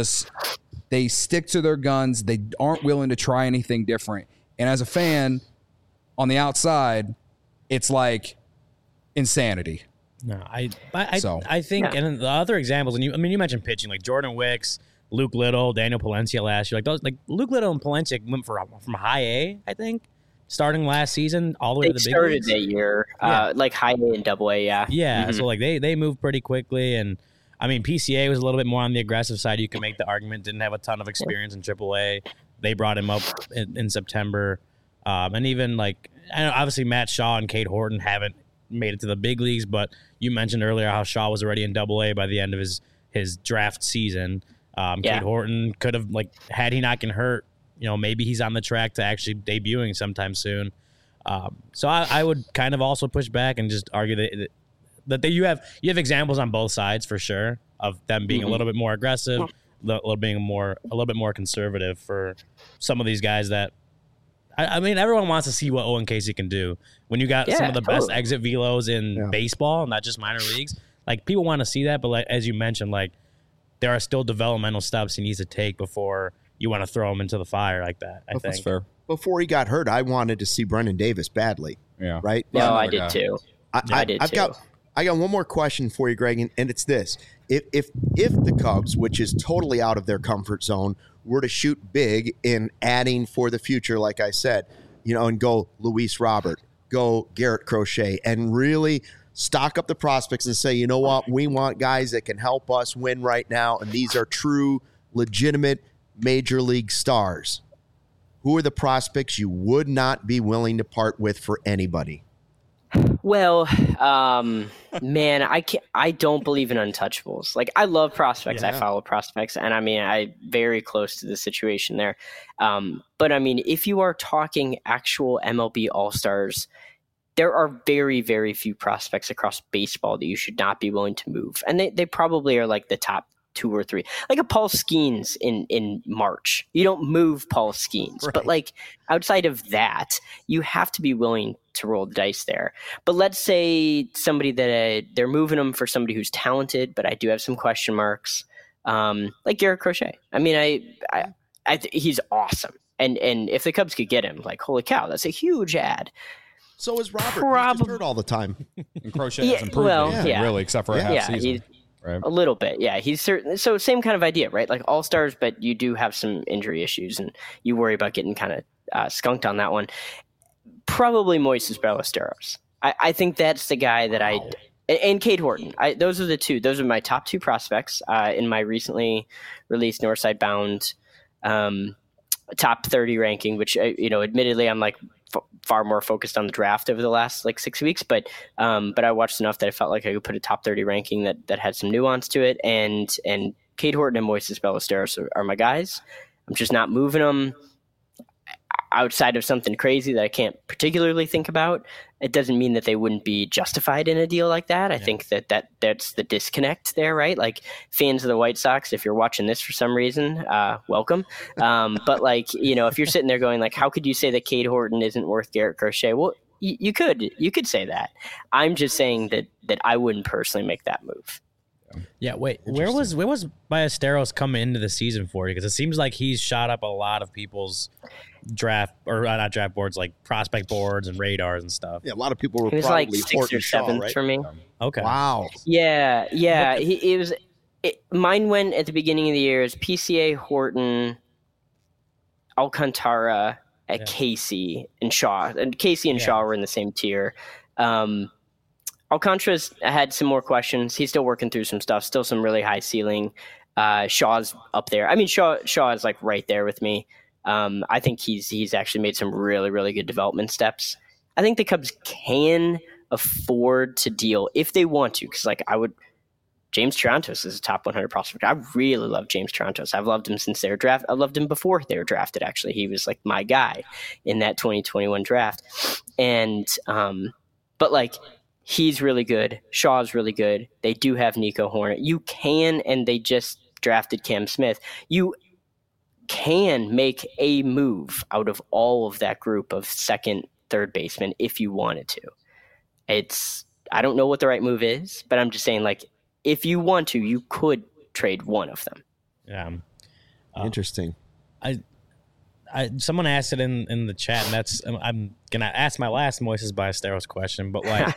they stick to their guns. They aren't willing to try anything different. And as a fan on the outside, it's like insanity. No, I think, and the other examples, and you mentioned pitching, like Jordan Wicks, Luke Little, Daniel Palencia last year. Like those, like Luke Little and Palencia went from high A, I think, starting last season all the way to the big leagues. They started that year, like high A and double A, yeah. Yeah, so like they moved pretty quickly, and I mean PCA was a little bit more on the aggressive side. You can make the argument, didn't have a ton of experience in AAA. They brought him up in September, and even like I know obviously Matt Shaw and Cade Horton haven't made it to the big leagues, but you mentioned earlier how Shaw was already in AA by the end of his draft season. Cade Horton could have, like, had he not been hurt, maybe he's on the track to actually debuting sometime soon. So I would kind of also push back and just argue that you have examples on both sides for sure of them being a little bit more aggressive, a little bit more conservative for some of these guys that. I mean, everyone wants to see what Owen Casey can do. When you got some of the best exit velos in baseball, not just minor leagues, like people want to see that. But like as you mentioned, like there are still developmental steps he needs to take before you want to throw him into the fire like that. I think that's fair. Before he got hurt, I wanted to see Brendan Davis badly. Yeah, right. No, I did too. I did too. I got one more question for you, Greg, and it's this: if the Cubs, which is totally out of their comfort zone, were to shoot big in adding for the future, like I said, and go Luis Robert, go Garrett Crochet, and really stock up the prospects and say, you know what, we want guys that can help us win right now, and these are true, legitimate major league stars. Who are the prospects you would not be willing to part with for anybody? Well, man, I don't believe in untouchables. Like I love prospects. Yeah. I follow prospects, and I mean, I'm very close to the situation there. But I mean, if you are talking actual MLB All-Stars, there are very, very few prospects across baseball that you should not be willing to move. And they probably are like the top 2 or 3, like a Paul Skeens in March. You don't move Paul Skeens, right. But like outside of that, you have to be willing to roll the dice there. But let's say somebody that they're moving them for somebody who's talented, but I do have some question marks, like Garrett Crochet. I mean, he's awesome. And if the Cubs could get him, like, holy cow, that's a huge ad. So is Robert. He's just hurt all the time. And Crochet hasn't improved anything, really, except for a half season. Right. A little bit, yeah. He's certainly so same kind of idea, right? Like all-stars, but you do have some injury issues, and you worry about getting kind of skunked on that one. Probably Moises Ballesteros. I think that's the guy that and Cade Horton. Those are the two. Those are my top 2 prospects in my recently released Northside Bound top 30 ranking, which admittedly I'm like far more focused on the draft over the last like 6 weeks, but I watched enough that I felt like I could put a top 30 ranking that had some nuance to it, and Cade Horton and Moises Ballesteros are my guys. I'm just not moving them outside of something crazy that I can't particularly think about. It doesn't mean that they wouldn't be justified in a deal like that. I think that's the disconnect there, right? Like fans of the White Sox, if you're watching this for some reason, welcome. But like, if you're sitting there going like, how could you say that Cade Horton isn't worth Garrett Crochet? Well, you could say that. I'm just saying that I wouldn't personally make that move. Yeah, wait, where was Ballesteros coming into the season for you? Because it seems like he's shot up a lot of people's draft, or not draft boards, like prospect boards and radars and stuff. Yeah, a lot of people were he was probably like 6th or 7th right? for me. Okay. Wow. Yeah. Mine went at the beginning of the year as PCA, Horton, Alcantara, Casey, and Shaw. And Casey and Shaw were in the same tier. Alcantara's had some more questions. He's still working through some stuff, still some really high ceiling. Shaw's up there. I mean, Shaw is like right there with me. I think he's actually made some really, really good development steps. I think the Cubs can afford to deal if they want to, because James Triantos is a top 100 prospect. I really love James Triantos. I've loved him since their draft. I loved him before they were drafted, actually. He was like my guy in that 2021 draft. And, but like, he's really good. Shaw's really good. They do have Nico Hornet. You can, and they just drafted Cam Smith. You can make a move out of all of that group of second, third baseman if you wanted to. I don't know what the right move is, but I'm just saying, like, if you want to, you could trade one of them. Yeah. Interesting. Someone asked it in the chat, and I'm gonna ask my last Moises Ballesteros question, but like,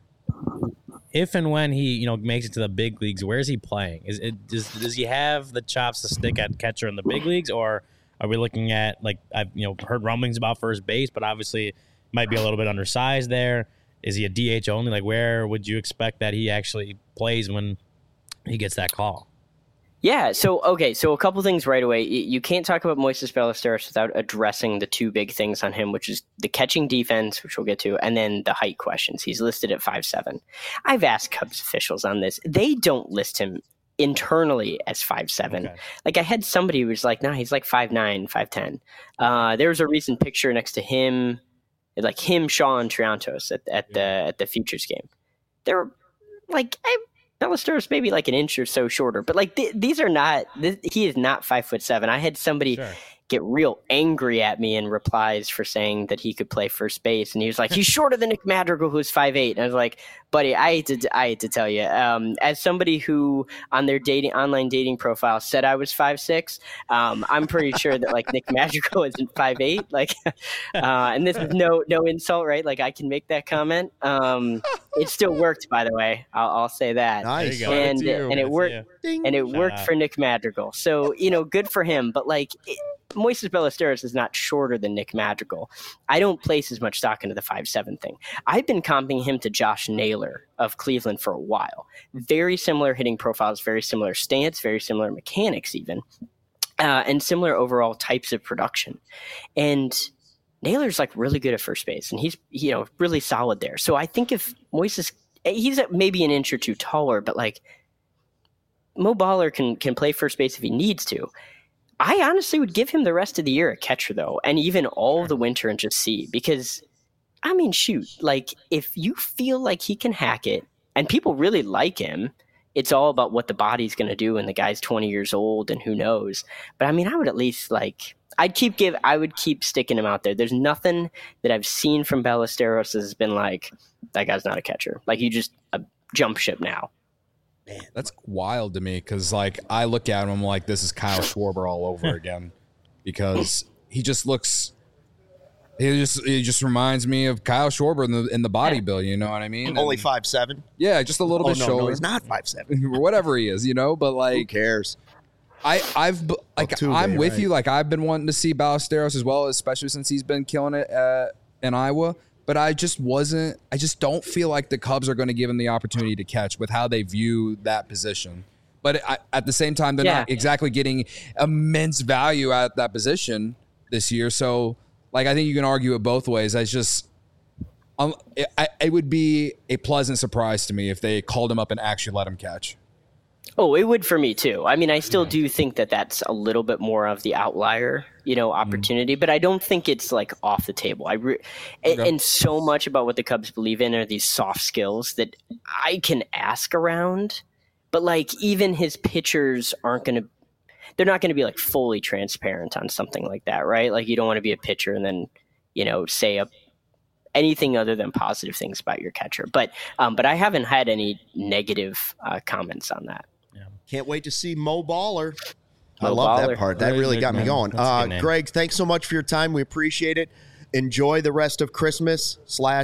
if and when he makes it to the big leagues, where is he playing? Does he have the chops to stick at catcher in the big leagues, or are we looking at, like, I've heard rumblings about first base, but obviously might be a little bit undersized there. Is he a DH only? Like, where would you expect that he actually plays when he gets that call? Yeah, so a couple things right away. You can't talk about Moises Ballesteros without addressing the 2 big things on him, which is the catching defense, which we'll get to, and then the height questions. He's listed at 5'7". I've asked Cubs officials on this. They don't list him internally as 5'7". Okay. Like, I had somebody who was like, nah, he's like 5'9", 5'10". There was a recent picture next to him, like him, Shaw, and Triantos at the Futures game. They're like, Ballesteros maybe like an inch or so shorter, but like these are not. He is not 5'7". I had somebody get real angry at me in replies for saying that he could play first base, and he was like, he's shorter than Nick Madrigal, who's 5'8". And I was like, buddy, I hate to tell you, as somebody who on their online dating profile said I was 5'6", I'm pretty sure that like Nick Madrigal isn't 5'8". Like, and this is no insult, right? Like, I can make that comment. It still worked, by the way. I'll say that. Nice. And it worked. And it worked for Nick Madrigal. So, good for him. But like, Moises Ballesteros is not shorter than Nick Madrigal. I don't place as much stock into the 5'7" thing. I've been comping him to Josh Naylor of Cleveland for a while. Very similar hitting profiles, very similar stance, very similar mechanics even, and similar overall types of production. And Naylor's like really good at first base, and he's really solid there. So I think if Moises, he's maybe an inch or 2 taller, but like Mo Baller can play first base if he needs to. I honestly would give him the rest of the year at catcher, though, and even all of the winter, and just see, because I mean, shoot, like if you feel like he can hack it and people really like him, it's all about what the body's going to do. And the guy's 20 years old and who knows. But I mean, I would at least I would keep sticking him out there. There's nothing that I've seen from Ballesteros that has been like, that guy's not a catcher. Like, you just jump ship now. Man, that's wild to me because, like, I look at him, I'm like, this is Kyle Schwarber all over again because he just looks. He just reminds me of Kyle Schwarber in the body build. You know what I mean? Only 5'7"? Yeah, just a little bit shorter. No, he's not 5'7". or whatever he is, you know. But like, who cares? I'm with you. Like, I've been wanting to see Ballesteros as well, especially since he's been killing it in Iowa. But I just don't feel like the Cubs are going to give him the opportunity to catch with how they view that position. But at the same time, they're not exactly getting immense value at that position this year. So, like, I think you can argue it both ways. It would be a pleasant surprise to me if they called him up and actually let him catch. Oh, it would for me too. I mean, I still do think that that's a little bit more of the outlier, opportunity, but I don't think it's like off the table. And so much about what the Cubs believe in are these soft skills that I can ask around, but like even his pitchers they're not going to be like fully transparent on something like that, right? Like, you don't want to be a pitcher and then, say anything other than positive things about your catcher. But I haven't had any negative comments on that. Can't wait to see Mo Baller. I love that part. That really got me going. Greg, thanks so much for your time. We appreciate it. Enjoy the rest of Christmas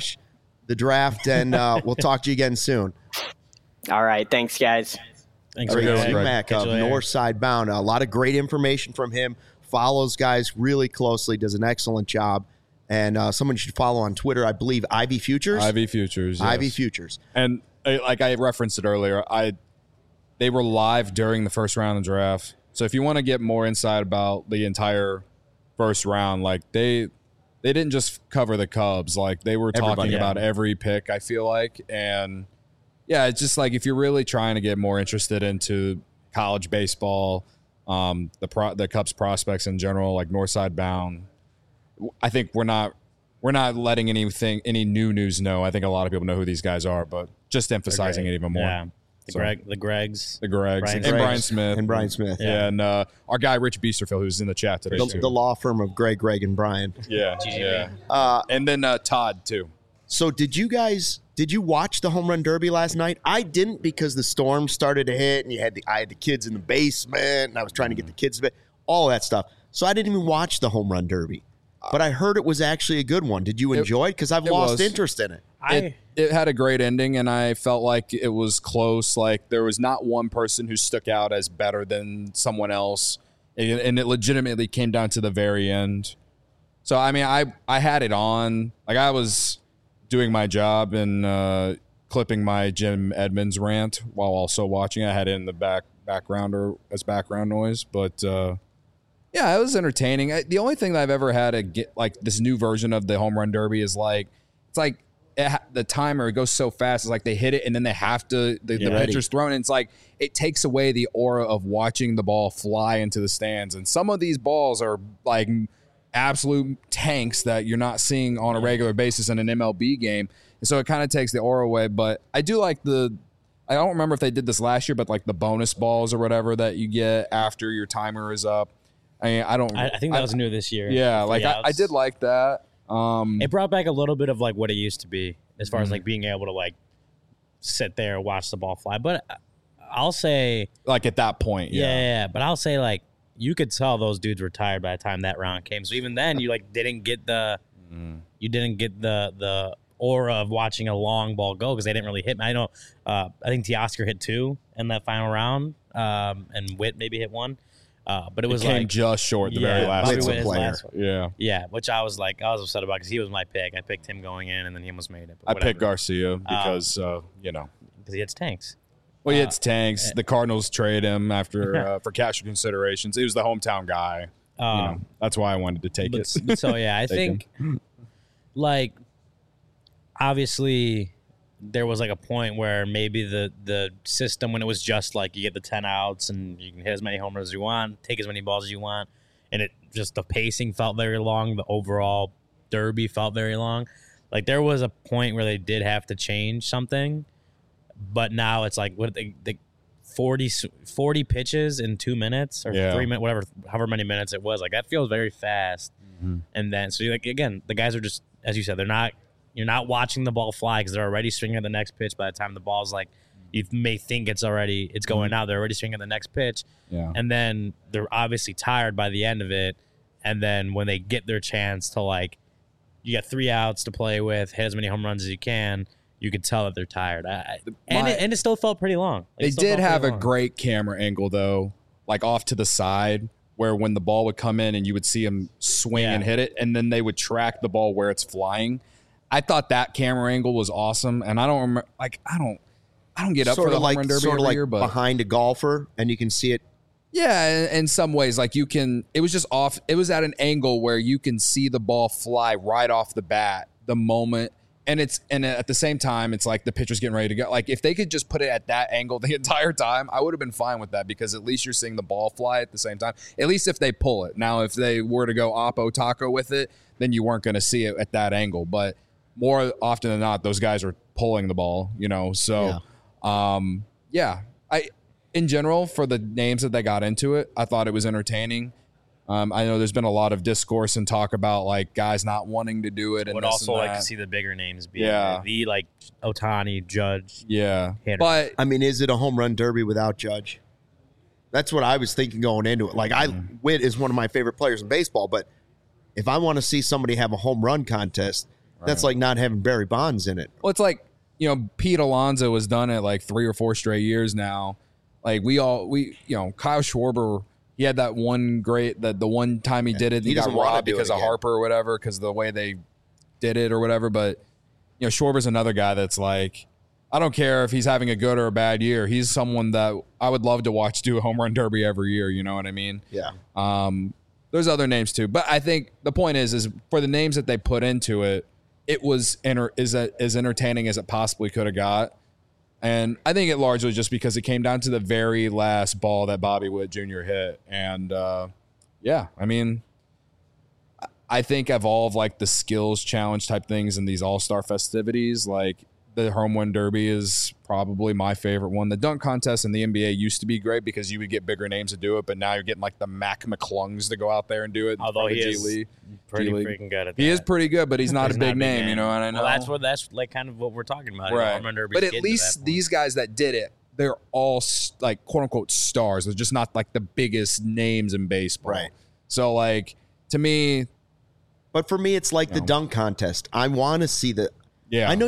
/ the draft, and we'll talk to you again soon. All right. Thanks, guys. Thanks, Greg Mack of Northside Bound. A lot of great information from him. Follows guys really closely. Does an excellent job. And someone should follow on Twitter, I believe, Ivy Futures. Ivy Futures, yes. Ivy Futures. And like I referenced it earlier, they were live during the first round of the draft. So if you want to get more insight about the entire first round, like they didn't just cover the Cubs. Like, they were talking about every pick, I feel like. And yeah, it's just like, if you're really trying to get more interested into college baseball, the Cubs prospects in general, like Northside Bound, I think we're not letting any new news know. I think a lot of people know who these guys are, but just emphasizing it even more. Yeah. The Gregs, and Brian Smith. Yeah. And our guy Rich Biesterfield, who's in the chat today, the law firm of Greg, and Brian. Yeah. And then Todd too. So did you watch the home run derby last night? I didn't, because the storm started to hit and I had the kids in the basement and I was trying to get the kids to bed, all that stuff. So I didn't even watch the home run derby. But I heard it was actually a good one. Did you enjoy it? Because I've lost interest in it. It had a great ending, and I felt like it was close. Like, there was not one person who stuck out as better than someone else, and it legitimately came down to the very end. So, I mean, I had it on. Like, I was doing my job and clipping my Jim Edmonds rant while also watching. I had it in the background or as background noise, but yeah, it was entertaining. The only thing that I've ever had to get, like, this new version of the home run derby is like, it's like the timer, it goes so fast. It's like they hit it and then they have to, the pitcher's thrown. And it's like, it takes away the aura of watching the ball fly into the stands. And some of these balls are like absolute tanks that you're not seeing on a regular basis in an MLB game. And so it kind of takes the aura away. But I do like I don't remember if they did this last year, but like the bonus balls or whatever that you get after your timer is up. I think that was new this year. Yeah, like I did like that. It brought back a little bit of like what it used to be as far as like being able to like sit there and watch the ball fly. But I'll say, like, at that point, yeah. But I'll say, like, you could tell those dudes were tired by the time that round came. So even then, you like didn't get the aura of watching a long ball go because they didn't really hit. I know. I think Teoscar hit 2 in that final round, and Witt maybe hit 1. But it was came like just short the very last one. Yeah, which I was upset about because he was my pick. I picked him going in, and then he almost made it. I picked Garcia because because he hits tanks. Well, he hits tanks. The Cardinals trade him after for cash considerations. He was the hometown guy. That's why I wanted to take it. So yeah, I think like obviously there was like a point where maybe the system, when it was just like you get the 10 outs and you can hit as many homers as you want, take as many balls as you want, and it just the pacing felt very long, the overall derby felt very long. Like there was a point where they did have to change something, but now it's like what they 40 pitches in 2 minutes or 3 minutes, whatever, however many minutes it was. Like that feels very fast. Mm-hmm. And then so like again, the guys are just, as you said, you're not watching the ball fly because they're already swinging at the next pitch. By the time the ball's like, you may think it's going out. They're already swinging at the next pitch. Yeah. And then they're obviously tired by the end of it. And then when they get their chance to like, you got 3 outs to play with, hit as many home runs as you can, you could tell that they're tired. And it still felt pretty long. They did have a great camera angle, though, like off to the side, where when the ball would come in and you would see them swing and hit it, and then they would track the ball where it's flying. I thought that camera angle was awesome, and I don't remember, like, I don't get up for the home run derby every year, but behind a golfer, and you can see it. Yeah, in some ways, like you can. It was just off. It was at an angle where you can see the ball fly right off the bat the moment. And at the same time, it's like the pitcher's getting ready to go. Like if they could just put it at that angle the entire time, I would have been fine with that because at least you're seeing the ball fly at the same time. At least if they pull it. Now, if they were to go oppo taco with it, then you weren't going to see it at that angle. But more often than not, those guys are pulling the ball, you know. So, in general, for the names that they got into it, I thought it was entertaining. I know there's been a lot of discourse and talk about like guys not wanting to do it. And would also like to see the bigger names be the like Ohtani, Judge. Yeah. Hitter. But I mean, is it a home run derby without Judge? That's what I was thinking going into it. Like Witt is one of my favorite players in baseball, but if I want to see somebody have a home run contest, that's like not having Barry Bonds in it. Well, it's like, you know, Pete Alonso has done it like 3 or 4 straight years now. Like Kyle Schwarber, he had that one the one time he did it, he got robbed because of Harper or whatever, because of the way they did it or whatever. But, you know, Schwarber's another guy that's like, I don't care if he's having a good or a bad year. He's someone that I would love to watch do a home run derby every year. You know what I mean? Yeah. There's other names too. But I think the point is for the names that they put into it, it was as entertaining as it possibly could have got. And I think it largely just because it came down to the very last ball that Bobby Witt Jr. hit. And, I mean, I think of all of like the skills challenge type things in these all-star festivities, like the home run derby is probably my favorite one. The dunk contest in the NBA used to be great because you would get bigger names to do it, but now you're getting like the Mac McClungs to go out there and do it. Although he is pretty freaking good at that. He is pretty good, but he's not a big name, you know what I know? Well, that's like kind of what we're talking about. Right. Home run derby, but at least these guys that did it, they're all like quote unquote stars. They're just not like the biggest names in baseball. Right. So like to me, but for me, it's like the dunk contest. I want to see the. Yeah. I know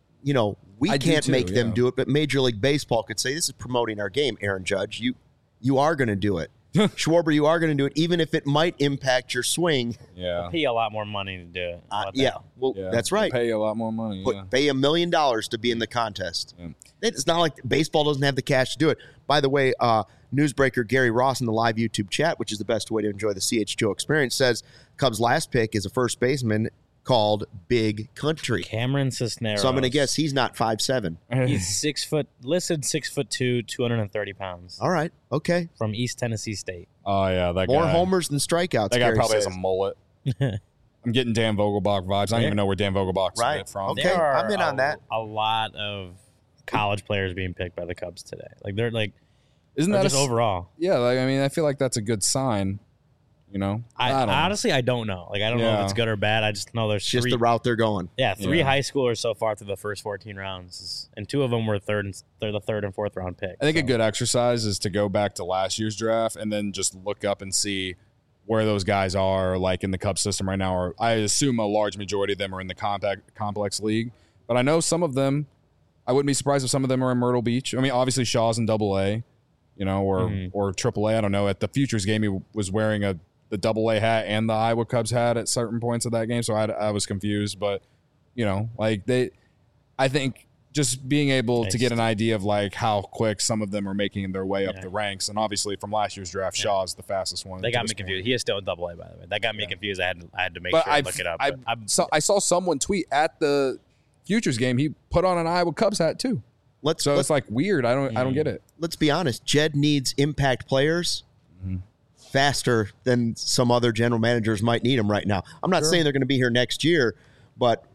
we can't make them do it, but Major League Baseball could say, this is promoting our game, Aaron Judge. You are going to do it. Schwarber, you are going to do it, even if it might impact your swing. Yeah. They'll pay you a lot more money to do it. That's right. They'll pay you a lot more money. Pay $1 million to be in the contest. Yeah. It's not like baseball doesn't have the cash to do it. By the way, newsbreaker Gary Ross in the live YouTube chat, which is the best way to enjoy the CHGO experience, says Cubs' last pick is a first baseman called Big Country. Cameron Cisneros. So I'm going to guess he's not 5'7". He's 6 foot, listed 6'2", 230 pounds. All right. Okay. From East Tennessee State. Oh, yeah. That More guy. homers than strikeouts. That guy probably has a mullet. I'm getting Dan Vogelbach vibes. I don't even know where Dan Vogelbach's from. Okay. I'm in on that. A lot of college players being picked by the Cubs today. Like, they're like, isn't that just overall? Yeah. Like, I mean, I feel like that's a good sign. You know, I honestly, I don't know. Like, I don't know if it's good or bad. I just know there's just the route they're going. Yeah, 3 high schoolers so far through the first 14 rounds, and 2 of them were they're the 3rd and 4th round pick. I think a good exercise is to go back to last year's draft and then just look up and see where those guys are, like in the Cubs system right now. Or I assume a large majority of them are in the complex league, but I know some of them. I wouldn't be surprised if some of them are in Myrtle Beach. I mean, obviously Shaw's in AA, or AAA. I don't know. At the Futures game, he was wearing the AA hat and the Iowa Cubs hat at certain points of that game. So I was confused, but I think just being able to get an idea of like how quick some of them are making their way up the ranks. And obviously from last year's draft, Shaw's the fastest one. They got me confused. He is still in AA, by the way. That got me confused. I had to make sure I look it up. I saw someone tweet at the Futures game. He put on an Iowa Cubs hat too. It's like weird. I don't get it. Let's be honest. Jed needs impact players faster than some other general managers might need them right now. I'm not saying they're going to be here next year, but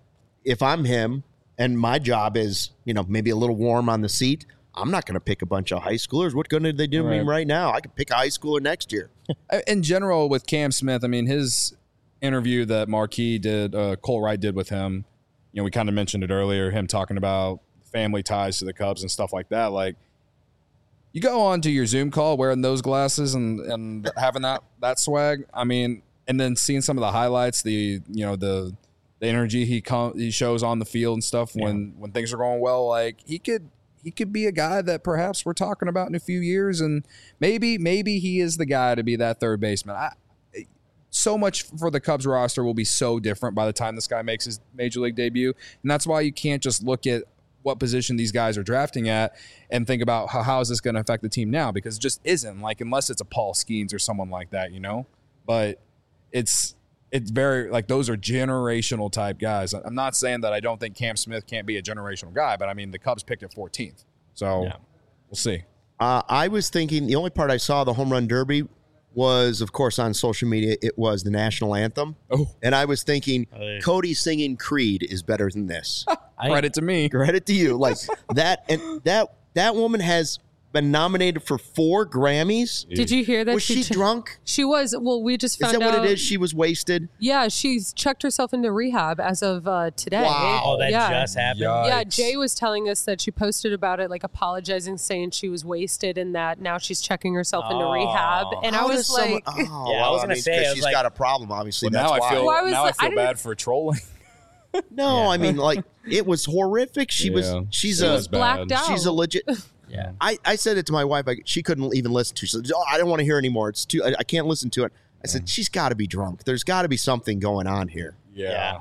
if I'm him and my job is, maybe a little warm on the seat, I'm not going to pick a bunch of high schoolers. What good are they doing me right now? I could pick a high schooler next year. In general, with Cam Smith, I mean, his interview that Marquis did, Cole Wright did with him, we kind of mentioned it earlier, him talking about family ties to the Cubs and stuff like that. Like, you go on to your Zoom call wearing those glasses and having that swag. I mean, and then seeing some of the highlights, the energy he shows on the field and stuff when things are going well. Like, he could be a guy that perhaps we're talking about in a few years, and maybe he is the guy to be that third baseman. So much for the Cubs roster will be so different by the time this guy makes his major league debut, and that's why you can't just look at what position these guys are drafting at and think about how is this going to affect the team now, because it just isn't, like, unless it's a Paul Skeens or someone like that, but it's very, like, those are generational type guys. I'm not saying that I don't think Cam Smith can't be a generational guy, but I mean, the Cubs picked at 14th, so we'll see. I was thinking the only part I saw the home run derby was, of course, on social media. It was the national anthem. Oh, and I was thinking Cody singing Creed is better than this. Credit to me. Credit to you. Like that, and that woman has been nominated for 4 Grammys. Did you hear that? Was she drunk? She was. Well, we just found out. Is that what it is? She was wasted? Yeah, she's checked herself into rehab as of today. Wow. Oh, that just happened? Yikes. Yeah, Jay was telling us that she posted about it, like apologizing, saying she was wasted and that now she's checking herself into rehab. And How I was does like... someone, I was going to say, she's got a problem, obviously. Well, that's now why. I feel I bad for trolling. No, I mean, like, it was horrific. She's blacked out. She's a legit... Yeah. I said it to my wife. She couldn't even listen to it. She said, I don't want to hear anymore. It's too. I can't listen to it. I said, she's got to be drunk. There's got to be something going on here. Yeah.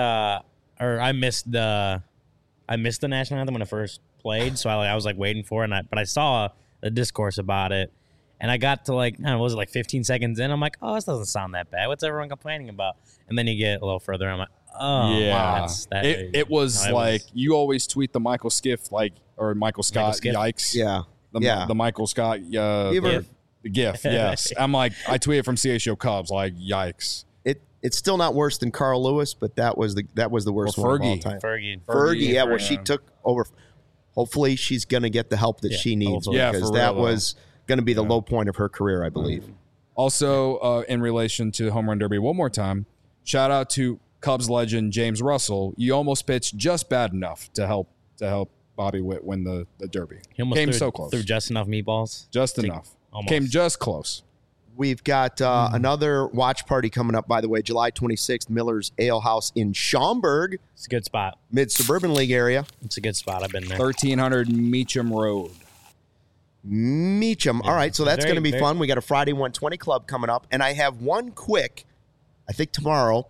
I missed the national anthem when it first played, so I was like waiting for it, but I saw the discourse about it, and I got to like, I don't know, was it like 15 seconds in? I'm like, oh, this doesn't sound that bad. What's everyone complaining about? And then you get a little further, I'm like, oh, yeah. wow, It was like, you always tweet the Michael Skiff, like, or Michael Scott, yikes. Yeah. The Michael Scott the GIF, yes. I'm like, I tweeted from CHO Cubs, like, yikes. It's still not worse than Carl Lewis, but that was the worst one of all time. Fergie, yeah. Well, she took over. Hopefully, she's going to get the help that she needs, because that was going to be the low point of her career, I believe. Also, in relation to the home run derby, one more time, shout out to Cubs legend James Russell. You almost pitched just bad enough to help Bobby Witt win the derby. He almost came so close. Threw just enough meatballs. Just enough. Almost. Came just close. We've got another watch party coming up, by the way, July 26th, Miller's Ale House in Schaumburg. It's a good spot. Mid-Suburban League area. It's a good spot. I've been there. 1300 Meacham Road. All right, so that's going to be fun. We got a Friday 120 club coming up, and I have one quick, I think tomorrow,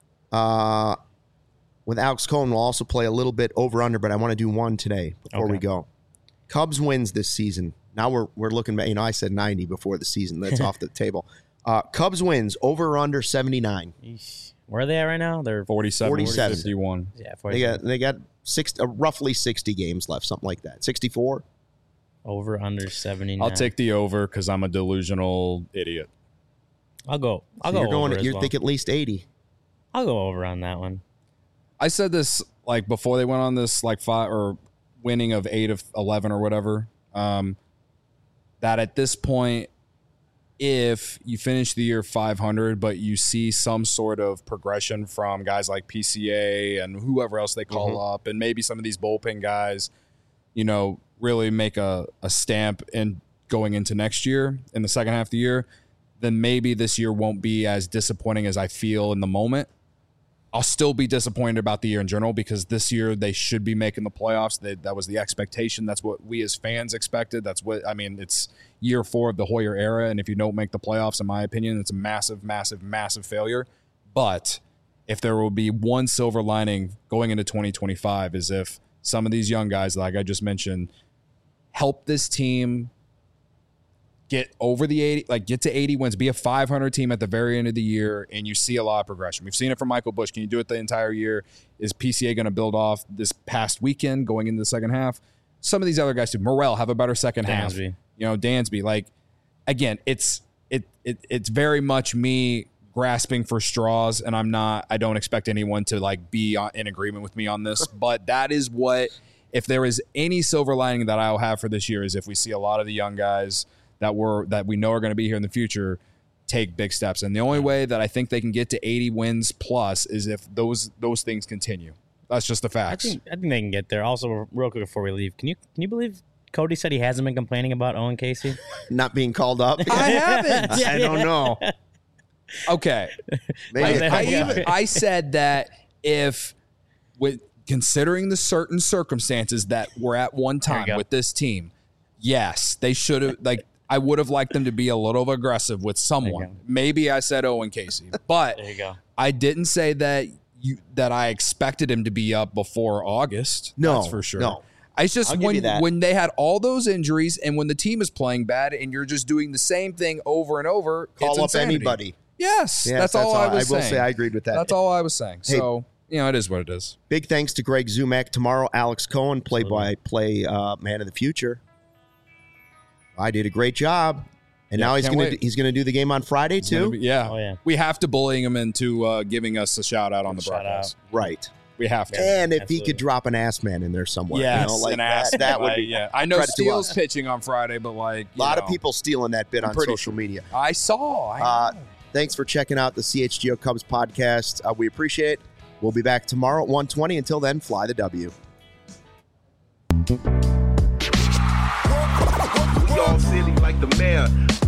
with Alex Cohen. We'll also play a little bit over-under, but I want to do one today before we go. Cubs wins this season. Now we're looking at, I said 90 before the season. That's off the table. Cubs wins over or under 79. Where are they at right now? They're 47. 51. Yeah, 47. They got roughly 60 games left, something like that. 64. Over under 79. I'll take the over because I'm a delusional idiot. I'll go You're over. You're thinking at least 80. I'll go over on that one. I said this like before they went on this like 5 or winning of 8 of 11 or whatever. That at this point, if you finish the year 500, but you see some sort of progression from guys like PCA and whoever else they call up, and maybe some of these bullpen guys, really make a stamp in going into next year in the second half of the year, then maybe this year won't be as disappointing as I feel in the moment. I'll still be disappointed about the year in general because this year they should be making the playoffs. That was the expectation. That's what we as fans expected. It's year 4 of the Hoyer era, and if you don't make the playoffs, in my opinion, it's a massive, massive, massive failure. But if there will be one silver lining going into 2025 is if some of these young guys, like I just mentioned, help this team get over the 80, like get to 80 wins, be a 500 team at the very end of the year, and you see a lot of progression. We've seen it from Michael Busch. Can you do it the entire year? Is PCA going to build off this past weekend going into the second half? Some of these other guys too. Morel have a better second half. Dansby. Like, again, it's very much me grasping for straws, and I don't expect anyone to like be in agreement with me on this, but that is what, if there is any silver lining that I'll have for this year, is if we see a lot of the young guys that we know are going to be here in the future take big steps. And the only way that I think they can get to 80 wins plus is if those things continue. That's just the facts. I think they can get there. Also, real quick before we leave, can you believe Cody said he hasn't been complaining about Owen Casey? Not being called up? I haven't. I don't know. Okay. I said that considering the certain circumstances that were at one time with this team, yes, they should have, like, I would have liked them to be a little aggressive with someone. Maybe I said Owen Casey, but there you go. I didn't say that I expected him to be up before August. No, that's for sure. No. It's just when they had all those injuries and when the team is playing bad and you're just doing the same thing over and over, call up insanity. anybody. Yes, that's all I was saying. I will say I agreed with that. That's all I was saying. Hey, so, it is what it is. Big thanks to Greg Zumak. Tomorrow, Alex Cohen, play-by-play man of the future. I did a great job. And now he's going to do the game on Friday, too? Yeah. We have to bully him into giving us a shout-out on the broadcast. Right. We have to. And if he could drop an ass man in there somewhere. Yes, like that would be. Yeah. I know Steele's pitching on Friday, but like a lot of people stealing that bit on social media. I saw. Thanks for checking out the CHGO Cubs podcast. We appreciate it. We'll be back tomorrow at 1:20. Until then, fly the W. We all silly like the mayor.